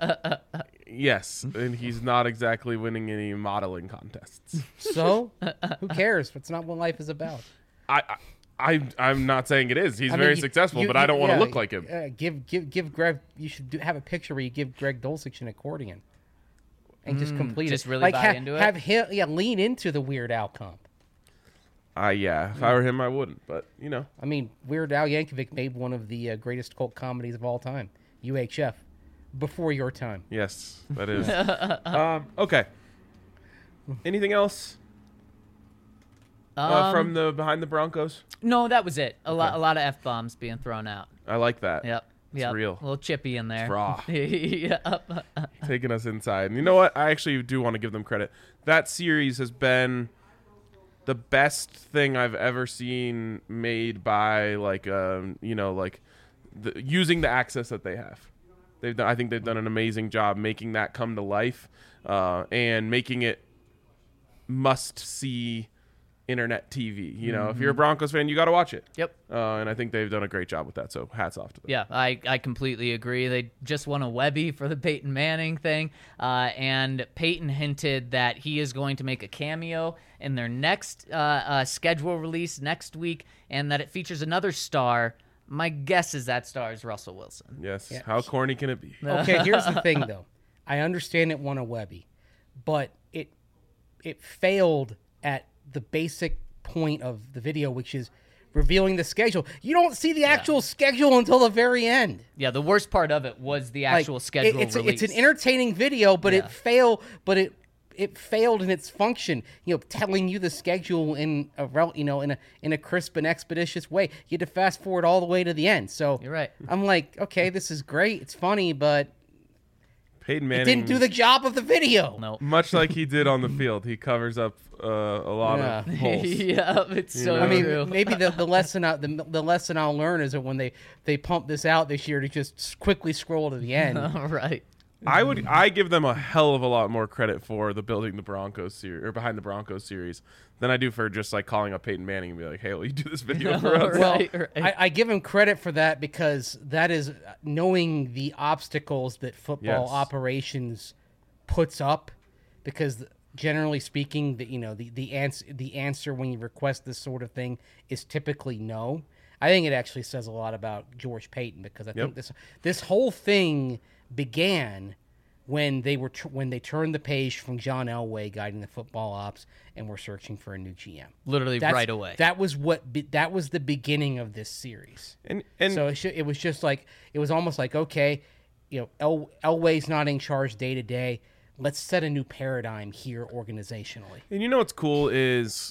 C: Yes, and he's not exactly winning any modeling contests.
D: So, who cares? It's not what life is about.
C: I, I, I I'm not saying it is. He's
D: I mean,
C: very
D: you-
C: successful,
D: you-
C: but I don't want to
D: yeah,
C: look like him.
D: Uh, give, give, give Greg. You should do, have a picture where you give Greg Dulcich an accordion, and just complete
A: just
D: it.
A: really
D: like
A: buy
D: ha-
A: into it?
D: Have him, yeah, lean into the Weird Al comp.
C: Uh, yeah, if I were him, I wouldn't. But you know,
D: I mean, Weird Al Yankovic made one of the uh, greatest cult comedies of all time, U H F, before your time.
C: yes, that is. um, okay. Anything else uh,
A: Um,
C: from the behind the Broncos?
A: No, that was it. A lot,
C: Okay.
A: a lot of f bombs being thrown out.
C: I like that.
A: Yep,
C: It's
A: yep.
C: real.
A: A little chippy in there.
C: raw.
A: yep.
C: Taking us inside. And you know what? I actually do want to give them credit. That series has been the best thing I've ever seen made by like um you know like the, using the access that they have. They've done, I think they've done an amazing job making that come to life uh, and making it must see internet T V. You know, if you're a Broncos fan, you got to watch it.
A: Yep.
C: Uh, and I think they've done a great job with that. So hats off to them.
A: Yeah, I, I completely agree. They just won a Webby for the Peyton Manning thing. Uh, and Peyton hinted that he is going to make a cameo in their next uh, uh, schedule release next week, and that it features another star. My guess is that star is Russell Wilson.
C: Yes.
D: Yeah.
C: How corny can it be?
D: Okay, here's the thing though. I understand it won a Webby, but it it failed at the basic point of the video, which is revealing the schedule. You don't see the actual schedule until the very end.
A: Yeah, the worst part of it was the
D: Like,
A: actual
D: it-
A: schedule
D: it's,
A: release.
D: it's an entertaining video, but
A: Yeah.
D: it failed. But it it failed in its function. You know, telling you the schedule in a rel- you know in a in a crisp and expeditious way. You had to fast forward all the way to the end. So
A: You're right.
D: I'm like, okay, this is great. It's funny, but
C: Peyton
D: it
C: Manning
D: didn't do the job of the video.
A: No.
C: much like he did on the field. He covers up uh, a lot
D: Yeah.
C: of holes.
A: yeah, it's so
C: know?
D: I mean,
A: true.
D: maybe the, the lesson I, the, the lesson I'll learn is that when they, they pump this out this year to just s- quickly scroll to the end.
A: All right.
C: I would I give them a hell of a lot more credit for the building the Broncos series or behind the Broncos series than I do for just like calling up Peyton Manning and be like, hey, will you do this video for us?
D: Well,
A: Right, right.
D: I, I give him credit for that because that is knowing the obstacles that football
C: Yes.
D: operations puts up. Because generally speaking, the you know the the answer the answer when you request this sort of thing is typically no. I think it actually says a lot about George Payton because I
C: Yep.
D: think this this whole thing began when they were tr- when they turned the page from John Elway guiding the football ops and were searching for a new G M.
A: Literally
D: That's-
A: right away.
D: That was what be, that was the beginning of this series.
C: And and
D: so it, sh- it was just like it was almost like okay, you know, El- Elway's not in charge day to day. Let's set a new paradigm here organizationally.
C: and you know what's cool is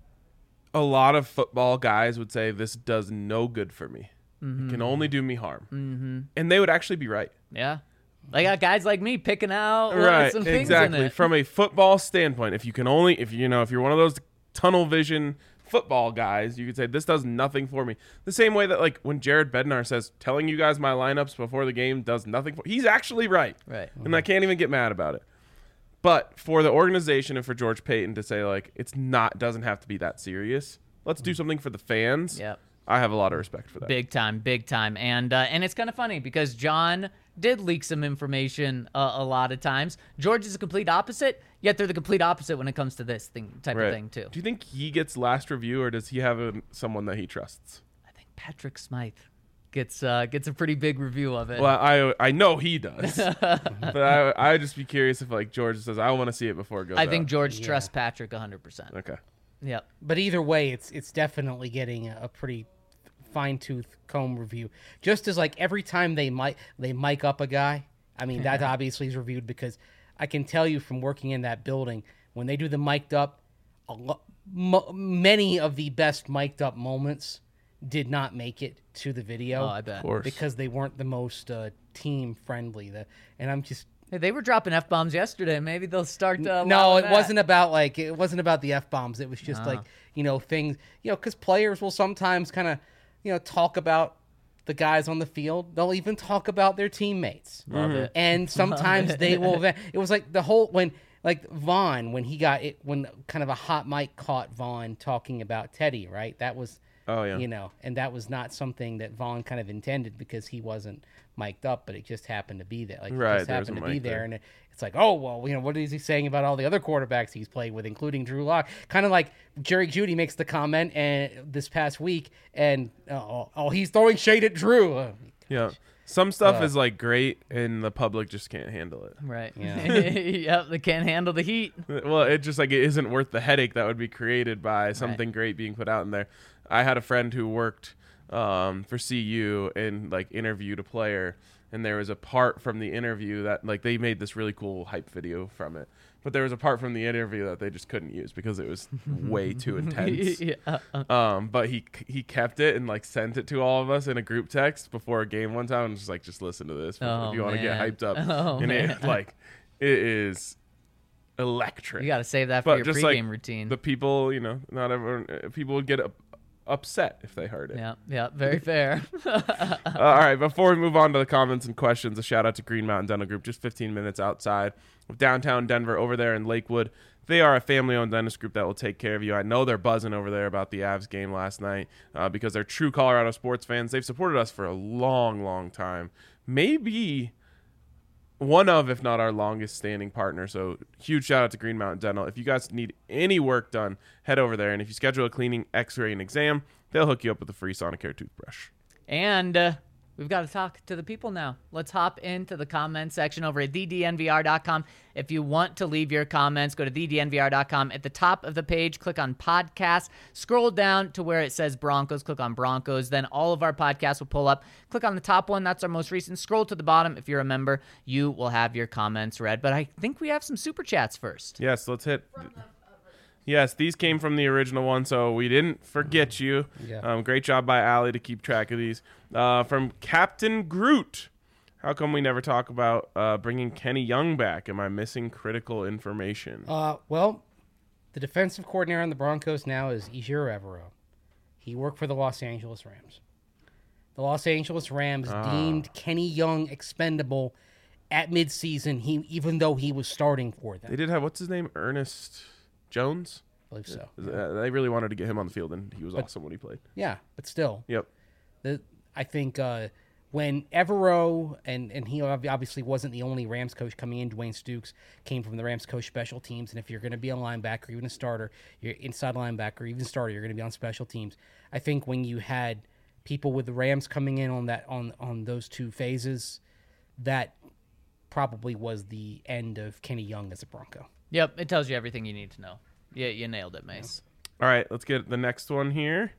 C: a lot of football guys would say this does no good for me. It can only do me harm. Mm-hmm. And they would actually be right.
A: yeah. They got guys like me picking out uh,
C: Right,
A: some things
C: exactly.
A: in it.
C: From a football standpoint, if you can only, if you know, if you're one of those tunnel vision football guys, you could say this does nothing for me. The same way that like when Jared Bednar says telling you guys my lineups before the game does nothing for, he's actually right,
A: Right.
C: and I can't even get mad about it. But for the organization and for George Payton to say like it's not doesn't have to be that serious. Let's do something for the fans.
A: Yep.
C: I have a lot of respect for that.
A: Big time, big time, and uh, and it's kind of funny because John did leak some information uh, a lot of times. George is the complete opposite, yet they're the complete opposite when it comes to this thing type
C: Right.
A: of thing too.
C: Do you think he gets last review, or does he have a, someone that he trusts?
A: I think Patrick Smythe gets uh, gets a pretty big review of it.
C: Well, I I know he does, but I I would just be curious if like George says I want to see it before it goes
A: I think
C: out.
A: George
D: Yeah.
A: trusts Patrick one hundred percent.
C: Okay.
A: Yep.
D: But either way, it's it's definitely getting a, a pretty fine tooth comb review. Just as like every time they mic they mic up a guy, I mean that obviously is reviewed because I can tell you from working in that building when they do the mic'd up, a lo- mo- many of the best mic'd up moments did not make it to the video.
A: Oh, I bet.
C: Of course.
D: Because they weren't the most uh, team friendly. The, and I'm just
A: Hey, they were dropping F bombs yesterday. Maybe they'll start. Uh,
D: no,
A: allowing
D: it
A: that.
D: wasn't about like it wasn't about the F bombs. It was just
A: Oh.
D: like, you know, things, you know, because players will sometimes kind of, you know, talk about the guys on the field. They'll even talk about their teammates.
A: Love it.
D: And sometimes they will. It was like the whole when like Vaughn when he got it when kind of a hot mic caught Vaughn talking about Teddy. Right, that was.
C: Oh, yeah.
D: You know, and that was not something that Vaughn kind of intended because he wasn't mic'd up, but it just happened to be there. Like,
C: Right,
D: it just
C: there
D: happened
C: was a
D: to be
C: mic
D: there.
C: there.
D: And it, it's like, oh, well, you know, what is he saying about all the other quarterbacks he's played with, including Drew Lock? Kind of like Jerry Jeudy makes the comment and this past week, and, oh, oh he's throwing shade at Drew. Uh,
C: Yeah. Some stuff
D: Uh,
C: is like great, and the public just can't handle it.
A: Right.
D: Yeah.
A: Yep. They can't handle the heat.
C: Well, it just like it isn't worth the headache that would be created by something great being put out in there. I had a friend who worked um, for C U and like interviewed a player, and there was a part from the interview that like they made this really cool hype video from it, but there was a part from the interview that they just couldn't use because it was way too intense.
A: yeah.
C: Um, but he he kept it and like sent it to all of us in a group text before a game one time and just like just listen to this
A: Oh,
C: if you want to get
A: man.
C: hyped up.
A: Oh,
C: and
A: man.
C: it like it is electric.
A: You got to save that for
C: But
A: your
C: just
A: pregame
C: like
A: routine.
C: the people, you know, not everyone uh, people would get up, upset if they heard it.
A: Yeah. Yeah. Very fair.
C: Uh, all right, before we move on to the comments and questions, a shout out to Green Mountain Dental Group, just fifteen minutes outside of downtown Denver over there in Lakewood. They are a family-owned dentist group that will take care of you. I know they're buzzing over there about the Avs game last night uh, because they're true Colorado sports fans. They've supported us for a long, long time. Maybe one of, if not our longest standing partner. So huge shout out to Green Mountain Dental. If you guys need any work done, head over there. And if you schedule a cleaning, x-ray, and exam, they'll hook you up with a free Sonicare toothbrush.
A: And uh, we've got to talk to the people now. Let's hop into the comment section over at the d n v r dot com. If you want to leave your comments, go to the d n v r dot com. At the top of the page, click on podcasts. Scroll down to where it says Broncos. Click on Broncos. Then all of our podcasts will pull up. Click on the top one. That's our most recent. Scroll to the bottom. If you're a member, you will have your comments read. But I think we have some super chats first.
C: Yes, let's hit. Yes, these came from the original one, so we didn't forget you.
D: Yeah.
C: Um, great job by Allie to keep track of these. Uh, from Captain Groot. How come we never talk about uh, bringing Kenny Young back? Am I missing critical information?
D: Uh, well, the defensive coordinator on the Broncos now is Ejiro Evero. He worked for the Los Angeles Rams. The Los Angeles Rams
C: Ah.
D: deemed Kenny Young expendable at midseason, he, even though he was starting for them.
C: They did have, what's his name? Ernest Jones?
D: I believe so.
C: Uh, They really wanted to get him on the field, and he was
D: But-
C: awesome when he played.
D: Yeah, but still,
C: Yep.
D: the, I think uh, when Evero, and, and he ob- obviously wasn't the only Rams coach coming in, Dwayne Stukes came from the Rams coach special teams, and if you're going to be a linebacker, even a starter, you're inside linebacker, even starter, you're going to be on special teams. I think when you had people with the Rams coming in on that on, on those two phases, that probably was the end of Kenny Young as a Bronco.
A: Yep, it tells you everything you need to know. Yeah, you nailed it, Mace.
C: All right, let's get the next one here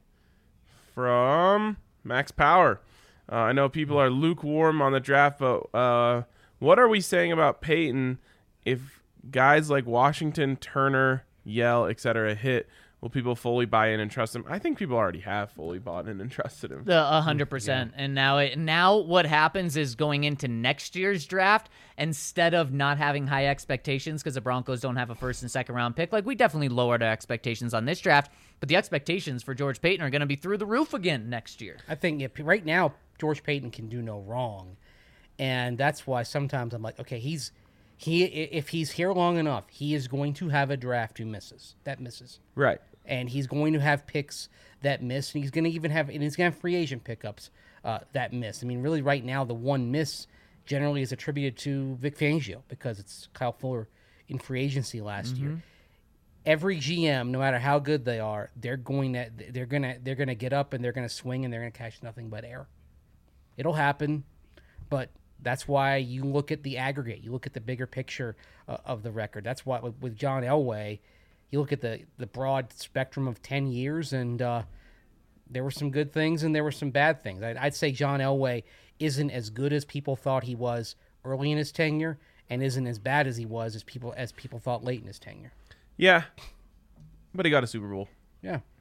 C: from Max Power. Uh, I know people are lukewarm on the draft, but uh, what are we saying about Peyton if guys like Washington, Turner, Yell, et cetera hit? Will people fully buy in and trust him? I think people already have fully bought in and trusted him.
A: The a hundred percent. And now it now what happens is going into next year's draft, instead of not having high expectations because the Broncos don't have a first and second round pick, like we definitely lowered our expectations on this draft, but the expectations for George Payton are going to be through the roof again next year.
D: I think if, right now George Payton can do no wrong, and that's why sometimes I'm like, okay, he's he if he's here long enough, he is going to have a draft who misses that misses,
C: Right.
D: and he's going to have picks that miss, and he's going to even have and he's going to have free agent pickups uh, that miss. I mean, really, right now the one miss generally is attributed to Vic Fangio because it's Kyle Fuller in free agency last year. Every G M, no matter how good they are, they're going to they're gonna they're gonna get up and they're gonna swing and they're gonna catch nothing but air. It'll happen, but that's why you look at the aggregate. You look at the bigger picture uh, of the record. That's why with, with John Elway, you look at the the broad spectrum of ten years, and uh, there were some good things and there were some bad things. I'd, I'd say John Elway isn't as good as people thought he was early in his tenure, and isn't as bad as he was as people as people thought late in his tenure.
C: Yeah. But he got a Super Bowl.
D: Yeah.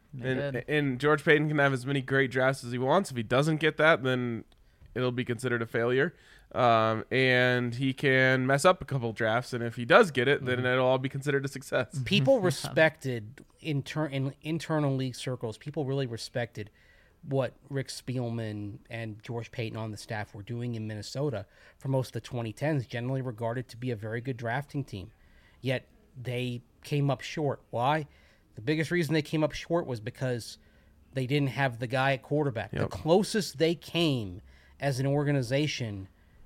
A: They
C: And,
A: did.
C: and George Payton can have as many great drafts as he wants. If he doesn't get that, then it'll be considered a failure. Um, and he can mess up a couple drafts, and if he does get it, then it'll all be considered a success.
D: People respected inter- in internal league circles. People really respected what Rick Spielman and George Payton on the staff were doing in Minnesota for most of the twenty tens, generally regarded to be a very good drafting team. Yet they came up short. Why? The biggest reason they came up short was because they didn't have the guy at quarterback.
C: Yep.
D: The closest they came as an organization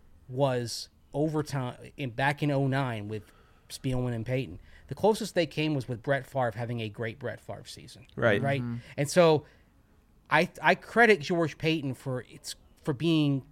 D: was overtime in back in oh nine with Spielman and Payton. The closest they came was with Brett Favre having a great Brett Favre season.
C: Right.
D: Right. And so I I credit George Payton for it's for being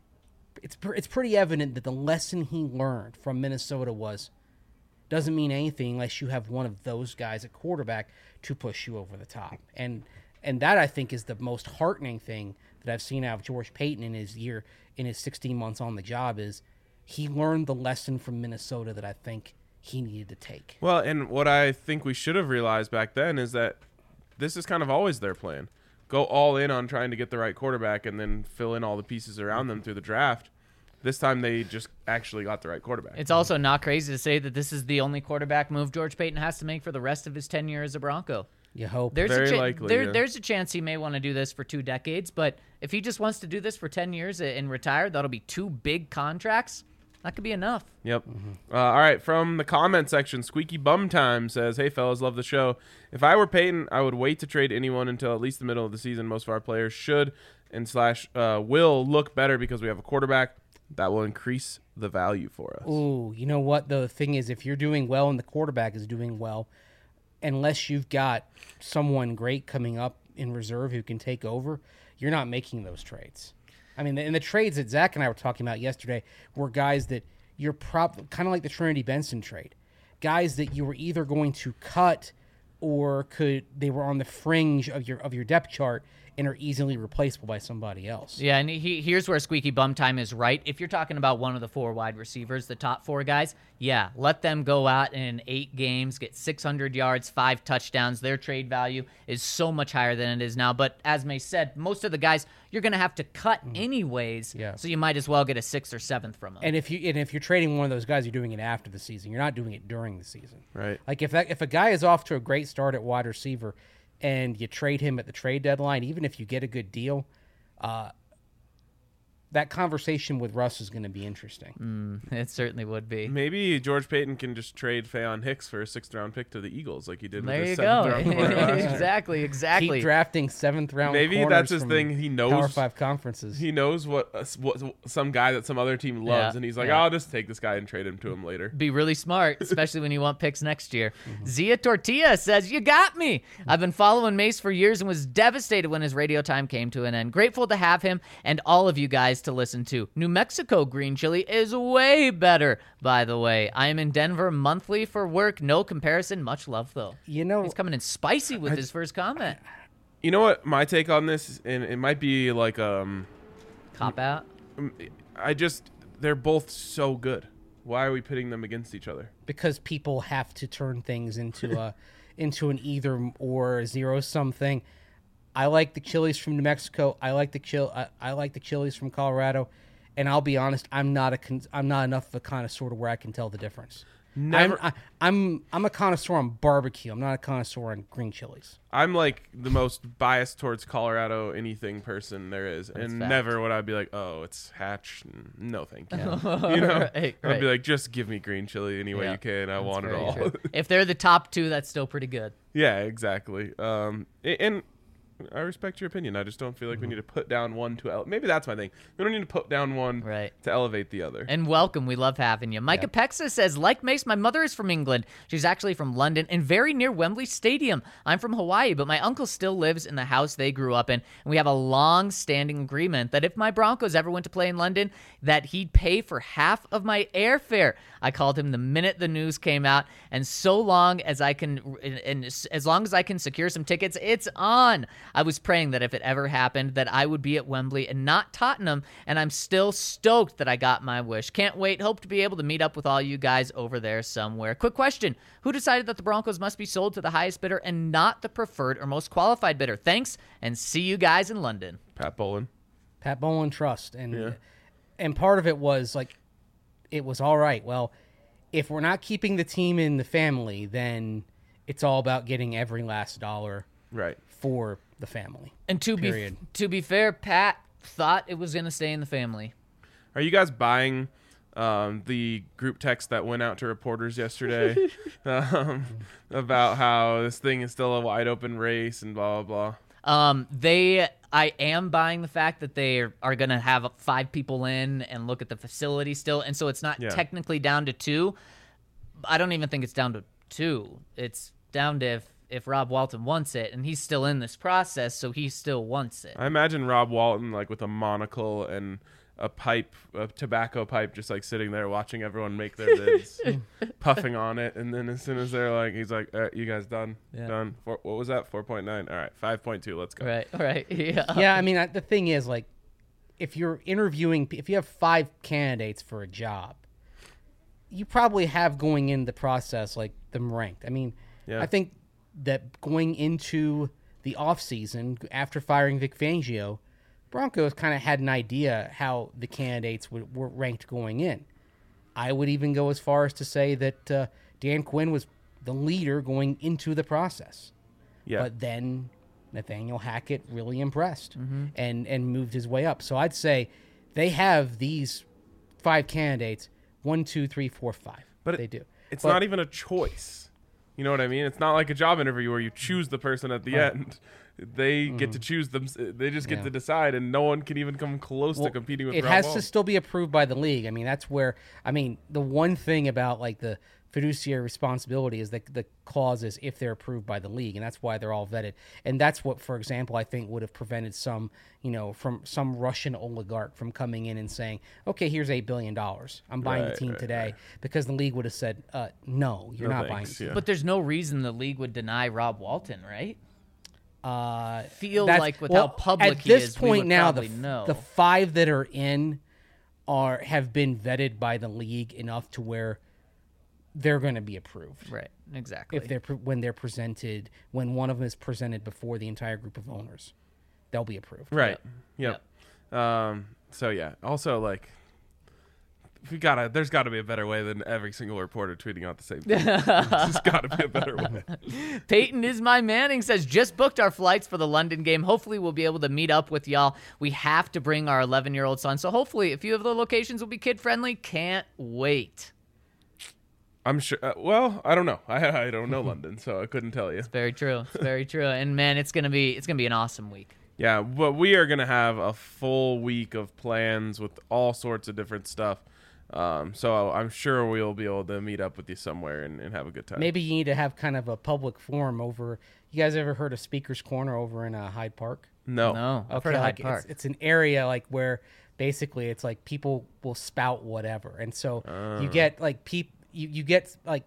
D: it's pr- it's pretty evident that the lesson he learned from Minnesota was doesn't mean anything unless you have one of those guys at quarterback to push you over the top. And and that I think is the most heartening thing that I've seen out of George Payton in his year in his sixteen months on the job is he learned the lesson from Minnesota that I think he needed to take.
C: Well, and what I think we should have realized back then is that this is kind of always their plan. Go all in on trying to get the right quarterback and then fill in all the pieces around them through the draft. This time they just actually got the right quarterback.
A: It's also not crazy to say that this is the only quarterback move George Payton has to make for the rest of his tenure as a Bronco.
D: You hope.
A: There's
C: Very
A: a cha-
C: likely,
A: there,
C: yeah.
A: There's a chance he may want to do this for two decades, but if he just wants to do this for ten years and retire, that'll be two big contracts. That could be enough.
C: Yep. Uh, all right. From the comment section, Squeaky Bum Time says, "Hey fellas, love the show. If I were Peyton, I would wait to trade anyone until at least the middle of the season. Most of our players should and slash uh, will look better because we have a quarterback that will increase the value for us."
D: Ooh, you know what? The thing is, if you're doing well and the quarterback is doing well, unless you've got someone great coming up in reserve who can take over, you're not making those trades. I mean, and the trades that Zach and I were talking about yesterday were guys that you're prob- kind of like the Trinity Benson trade. Guys that you were either going to cut or could they were on the fringe of your of your depth chart and are easily replaceable by somebody else.
A: Yeah, and he, here's where Squeaky Bum Time is right. If you're talking about one of the four wide receivers, the top four guys, yeah, let them go out in eight games, get six hundred yards, five touchdowns. Their trade value is so much higher than it is now. But as May said, most of the guys you're going to have to cut anyways,
D: Yeah.
A: so you might as well get a sixth or seventh from them.
D: And if you and if you're trading one of those guys, you're doing it after the season. You're not doing it during the season.
C: Right.
D: Like if that if a guy is off to a great start at wide receiver, and you trade him at the trade deadline, even if you get a good deal, uh, that conversation with Russ is going to be interesting.
A: It certainly would be.
C: Maybe George Payton can just trade Faion Hicks for a sixth round pick to the Eagles like he did
A: There
C: with
A: you
C: his
A: go.
C: seventh round corner last year.
A: exactly, exactly.
D: Keep drafting seventh round.
C: Maybe
D: corners
C: that's his
D: from
C: thing. He knows
D: Power Five conferences.
C: He knows what, uh, what some guy that some other team loves,
A: Yeah,
C: and he's like,
A: yeah.
C: "I'll just take this guy and trade him to him later."
A: Be really smart, especially when you want picks next year. Zia Tortilla says, "You got me. I've been following Mace for years and was devastated when his radio time came to an end. Grateful to have him and all of you guys to listen to. New Mexico green chili is way better, by the way. I am in Denver monthly for work. No comparison. Much love, though."
D: You know,
A: He's coming in spicy with his first comment.
C: You know what? My take on this, and it might be like, um,
A: Cop out.
C: I just they're both so good. Why are we pitting them against each other?
D: because people have to turn things into a into an either or zero sum thing. I like the chilies from New Mexico. I like the chil. I, I like the chilies from Colorado. And I'll be honest, I'm not a con- I'm not enough of a connoisseur to where I can tell the difference.
C: Never-
D: I'm, I, I'm I'm a connoisseur on barbecue. I'm not a connoisseur on green chilies.
C: I'm like the most biased towards Colorado anything person there is, and
A: fact.
C: never would I be like, "Oh, it's Hatch." No, thank you. You know,
A: Right,
C: I'd
A: right.
C: be like, "Just give me green chili any way
A: Yeah,
C: you can. I
A: that's
C: want it
A: very
C: all."
A: true. If they're the top two, that's still pretty good.
C: Yeah, exactly. Um, a- and I respect your opinion. I just don't feel like we need to put down one to ele- maybe that's my thing. We don't need to put down one
A: Right.
C: to elevate the other.
A: And welcome. We love having you. Micah Pexa says, like Mace, my mother is from England. She's actually from London and very near Wembley Stadium. I'm from Hawaii, but my uncle still lives in the house they grew up in. And we have a long-standing agreement that if my Broncos ever went to play in London, that he'd pay for half of my airfare. I called him the minute the news came out. And so long as I can, and as long as I can secure some tickets, it's on. I was praying that if it ever happened, that I would be at Wembley and not Tottenham, and I'm still stoked that I got my wish. Can't wait. Hope to be able to meet up with all you guys over there somewhere. Quick question. Who decided that the Broncos must be sold to the highest bidder and not the preferred or most qualified bidder? Thanks, and see you guys in London.
C: Pat Bolin.
D: Pat Bolin Trust. And,
C: Yeah.
D: and part of it was like, it was all right. Well, if we're not keeping the team in the family, then it's all about getting every last dollar
C: Right.
D: for the family.
A: And to
D: Period.
A: be to be fair, Pat thought it was going to stay in the family.
C: Are you guys buying um, the group text that went out to reporters yesterday um, about how this thing is still a wide open race and blah, blah, blah?
A: Um, they, I am buying the fact that they are, are going to have five people in and look at the facility still. And so it's not
C: Yeah.
A: technically down to two. I don't even think it's down to two. It's down to if, if Rob Walton wants it, and he's still in this process, so he still wants it.
C: I imagine Rob Walton like with a monocle and a pipe, a tobacco pipe, just like sitting there watching everyone make their bids, puffing on it, and then as soon as they're like, he's like, all right, "You guys done?
A: Yeah.
C: Done? Four, what was that? Four point nine. All right, five point two. Let's go."
A: Right, right, yeah.
D: Yeah, I mean, I- the thing is, like, if you're interviewing, if you have five candidates for a job, you probably have going in the process, like, them ranked. I mean,
C: Yeah.
D: I think that going into the offseason, after firing Vic Fangio, Broncos kind of had an idea how the candidates would, were ranked going in. I would even go as far as to say that uh, Dan Quinn was the leader going into the process.
C: Yeah.
D: But then Nathaniel Hackett really impressed
A: Mm-hmm.
D: and, and moved his way up. So I'd say they have these five candidates, one, two, three, four, five.
C: But it-
D: they do.
C: It's
D: But-
C: not even a choice. You know what I mean? It's not like a job interview where you choose the person at the
D: Right.
C: end. They get to choose them. They just get
D: Yeah.
C: to decide, and no one can even come close
D: Well,
C: to competing with
D: it
C: Rob
D: has
C: Walton.
D: to still be approved by the league. I mean, that's where I mean the one thing about like the fiduciary responsibility is that the clause is if they're approved by the league, and that's why they're all vetted. And that's what, for example, I think would have prevented some, you know, from some Russian oligarch from coming in and saying, "Okay, here's eight billion dollars. I'm buying
C: Right,
D: the team
C: right,
D: today,"
C: right.
D: because the league would have said, uh, "No, you're
C: No
D: not
C: thanks,
D: buying."
C: yeah.
A: But there's no reason the league would deny Rob Walton, right?
D: Uh,
A: Feel
D: that's-
A: like with
D: well,
A: how public
D: at
A: he
D: this
A: is, we
D: point
A: would
D: now, the,
A: probably
D: f-
A: know.
D: the five that are in are have been vetted by the league enough to where they're going to be approved.
A: Right, exactly.
D: If they're pre- when they're presented, when one of them is presented before the entire group of owners, they'll be approved.
C: Right. Yep. Um. So yeah. Also, like, we gotta. There's got to be a better way than every single reporter tweeting out the same thing. There's got to be a better way.
A: Peyton is my Manning says, just booked our flights for the London game. Hopefully we'll be able to meet up with y'all. We have to bring our eleven-year-old son, so hopefully a few of the locations will be kid-friendly. Can't wait.
C: I'm sure. Uh, well, I don't know. I I don't know London, so I couldn't tell you.
A: Very true. It's very true. And man, it's gonna be it's gonna be an awesome week.
C: Yeah, but we are gonna have a full week of plans with all sorts of different stuff. Um, so I'm sure we'll be able to meet up with you somewhere and, and have a good time.
D: Maybe you need to have kind of a public forum over. You guys ever heard of Speaker's Corner over in uh, Hyde Park?
C: No.
A: No, I've heard of
D: like
A: Hyde Park.
D: It's, it's an area like where basically it's like people will spout whatever, and so you get like peop you, you get like,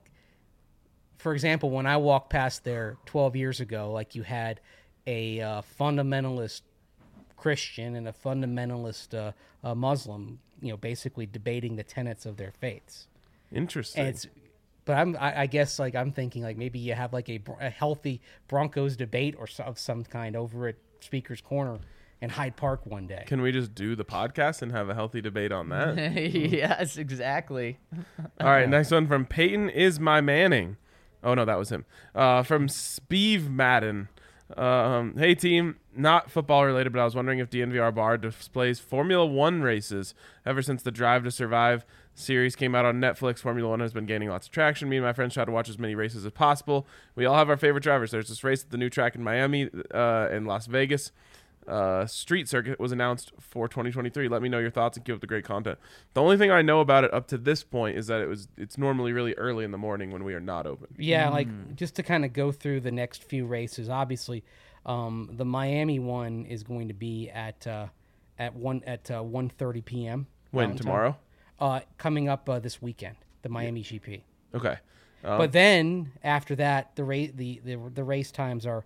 D: for example, when I walked past there twelve years ago, like you had a uh, fundamentalist Christian and a fundamentalist uh, uh, Muslim, you know, basically debating the tenets of their faiths.
C: Interesting.
D: And it's, but I'm, I, I guess, like I'm thinking, like maybe you have like a, a healthy Broncos debate or so, of some kind over at Speaker's Corner in Hyde Park one day.
C: Can we just do the podcast and have a healthy debate on that?
A: Yes, exactly.
C: All right, next one from Peyton is my Manning. Oh no, that was him. Uh, from Speeve Madden. Um, hey team, not football related, but I was wondering if D N V R Bar displays Formula One races. Ever since the Drive to Survive series came out on Netflix, Formula One has been gaining lots of traction. Me and my friends try to watch as many races as possible. We all have our favorite drivers. There's this race at the new track in Miami uh, and Las Vegas. Uh, Street Circuit was announced for twenty twenty-three. Let me know your thoughts and keep up the great content. The only thing I know about it up to this point is that it was it's normally really early in the morning when we are not open.
D: Yeah, like just to kind of go through the next few races. Obviously, um, the Miami one is going to be at uh, at one at uh, one thirty p.m.
C: When
D: Mountain Time.
C: tomorrow?
D: Uh, coming up uh, this weekend, the Miami G P.
C: Okay. Um,
D: But then after that, the race the, the the race times are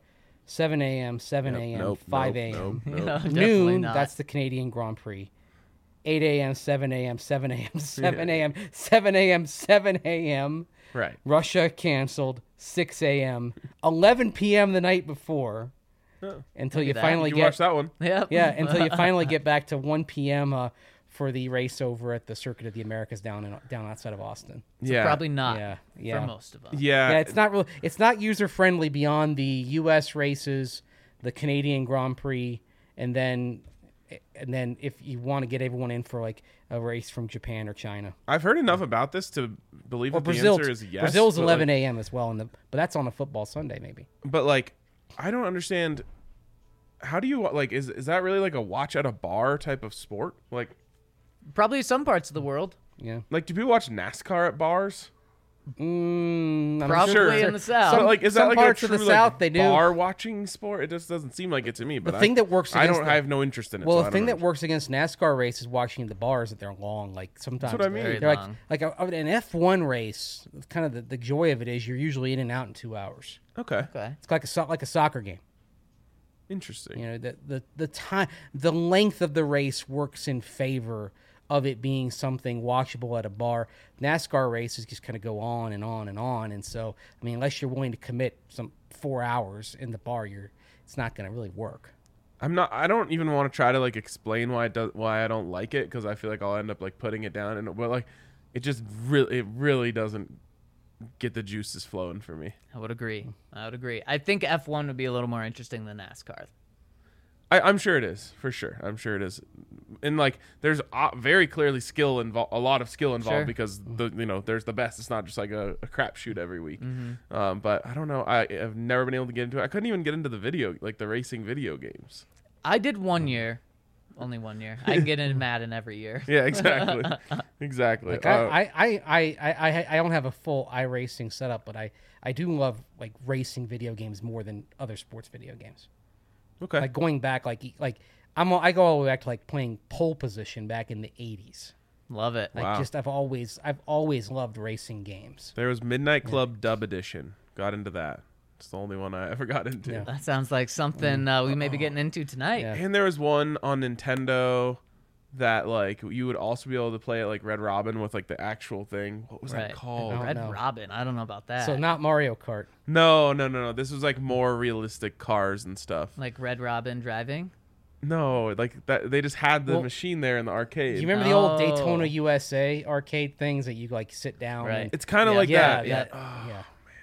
D: seven a.m., seven
C: Yep,
D: a.m.,
C: nope,
D: five
C: nope,
D: a.m.
C: nope,
A: No,
C: nope.
A: definitely
D: Noon,
A: not.
D: that's the Canadian Grand Prix. eight a.m., seven a.m., seven a.m., seven a.m., seven a.m., seven a.m.
C: Right.
D: Russia canceled, six a.m., eleven p.m. the night before,
C: Oh.
D: until
A: Look
D: you
A: at that.
D: finally
C: You
D: get
C: watch that one.
A: Yep.
D: yeah, until you finally get back to one p.m. Uh, for the race over at the Circuit of the Americas down in down outside of Austin.
C: Yeah.
A: Probably not
D: Yeah, yeah.
A: for most of us.
C: Yeah.
D: Yeah, it's not real. It's not user friendly beyond the U S races, the Canadian Grand Prix, and then and then if you want to get everyone in for like a race from Japan or China
C: I've heard enough about this to believe
D: or
C: that
D: Brazil.
C: the answer is yes.
D: Brazil's
C: but,
D: eleven
C: like,
D: a.m. as well, in the but that's on a football Sunday maybe.
C: But like, I don't understand. How do you like? Is is that really like a watch at a bar type of sport? Like,
A: Probably some parts of the world.
D: Yeah.
C: like do people watch NASCAR at bars?
D: Mm, I'm
A: Probably
D: sure.
A: in the South.
C: But like, is
D: some
C: that like
D: parts
C: a
D: of
C: true
D: the
C: like,
D: South they do.
C: bar watching sport? It just doesn't seem like it to me. But
D: The
C: I-
D: thing that works
C: I
D: against
C: don't.
D: the-
C: I have no interest in it.
D: Well,
C: so
D: the
C: I
D: thing
C: don't
D: that works against NASCAR races watching the bars that they're long. Like sometimes
C: what I mean.
A: Very
D: they're
A: long.
D: like like a, an F one race. Kind of the, the joy of it is you're usually in and out in two hours.
C: know. Okay,
A: Okay.
D: It's like a so- like a soccer game.
C: interesting.
D: You know, the the the time, the length of the race works in favor of it being something watchable at a bar. NASCAR races just kind of go on and on and on, and so I mean, unless you're willing to commit some four hours in the bar, you're it's not going to really work.
C: I'm not. I don't even want to try to like explain why it does, why I don't like it because I feel like I'll end up like putting it down and well, like it just really it really doesn't get the juices flowing for me.
A: I would agree. I would agree. I think F one would be a little more interesting than NASCAR.
C: I, I'm sure it is for sure. I'm sure it is, and like there's uh, very clearly skill involved, a lot of skill involved
A: Sure.
C: because the you know there's the best. It's not just like a, a crapshoot every week.
A: Mm-hmm.
C: Um, but I don't know. I have never been able to get into it. I couldn't even get into the video like the racing video games.
A: I did one year. Only one year. I can get into Madden every year.
C: Yeah, exactly, exactly.
D: Like
C: Uh,
D: I, I, I, I, I, I don't have a full iRacing setup, but I, I do love like racing video games more than other sports video games.
C: okay.
D: Like going back, like like I'm I go all the way back to like playing pole position back in the eighties.
A: Love it.
D: Like
C: Wow.
D: just I've always I've always loved racing games.
C: There was Midnight Club Dub Edition. Got into that. It's the only one I ever got into.
D: Yeah.
A: That sounds like something uh, we may be getting into tonight.
D: Yeah.
C: And there was one on Nintendo that like you would also be able to play it like Red Robin with like the actual thing. What was
A: Right.
C: that called?
D: don't
A: Red
D: know.
A: Robin. I don't know about that.
D: So not Mario Kart.
C: No, no, no, no. This was like more realistic cars and stuff.
A: like Red Robin driving.
C: No, like that. They just had the
D: Well,
C: machine there in the arcade.
D: You remember the old
A: Oh.
D: Daytona U S A arcade things that you like sit down?
A: Right.
D: And,
C: It's kind of
A: Yeah.
C: like
D: yeah,
C: that.
D: that-
C: Yeah.
D: yeah.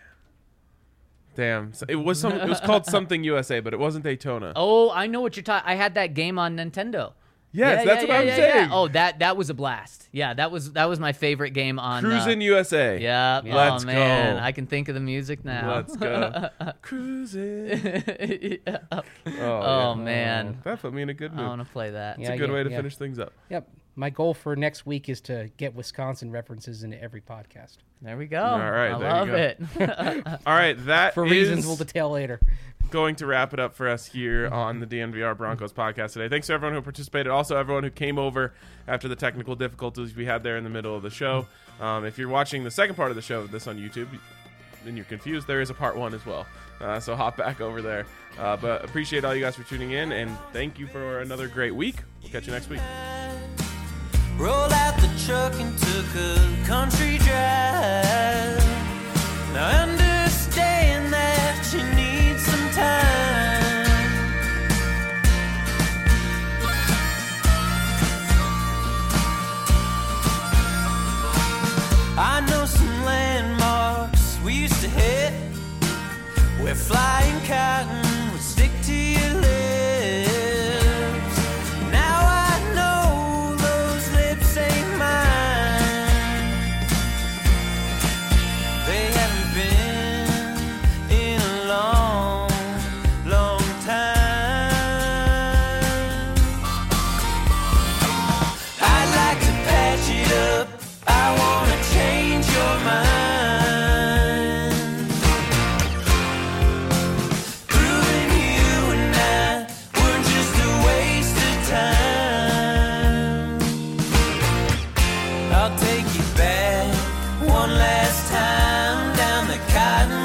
C: Damn. So it was some. It was called something U S A, but it wasn't Daytona.
A: Oh, I know what you're talking. I had that game on Nintendo.
C: yes,
A: Yeah,
C: that's
A: yeah,
C: what
A: yeah,
C: I'm
A: yeah,
C: saying.
A: yeah. Oh, that that was a blast. Yeah, that was that was my favorite game on.
C: Cruising
A: Uh,
C: U S A.
A: yeah.
C: Let's
A: oh man,
C: go.
A: I can think of the music now.
C: Let's go. Cruising.
A: Yeah.
C: Oh,
A: Oh
C: yeah.
A: man,
C: That put me in a good
A: I
C: mood.
A: want to play that.
C: It's
D: Yeah,
C: a good
D: yeah,
C: way to
D: yeah.
C: finish things up.
D: Yep. My goal for next week is to get Wisconsin references into every podcast.
A: There we go.
C: All right,
A: I
C: there you
A: love
C: go.
A: it.
C: All right, that
D: For
C: is
D: reasons we'll detail later.
C: going to wrap it up for us here on the D N V R Broncos podcast today. Thanks to everyone who participated. Also, everyone who came over after the technical difficulties we had there in the middle of the show. Um, if you're watching the second part of the show, this on YouTube, and you're confused, there is a part one as well. Uh, so hop back over there. Uh, but appreciate all you guys for tuning in, and thank you for another great week. We'll catch you next week.
B: Rolled out the truck and took a country drive. Now understand that you need some time. I know some landmarks we used to hit where flying cotton would stick to your lips. Now I know those lips ain't mine. They haven't been in a long, long time. I'd like to patch it up. I wanna change your mind. Proving you and I were just a waste of time. I'll take you back one last time down the cotton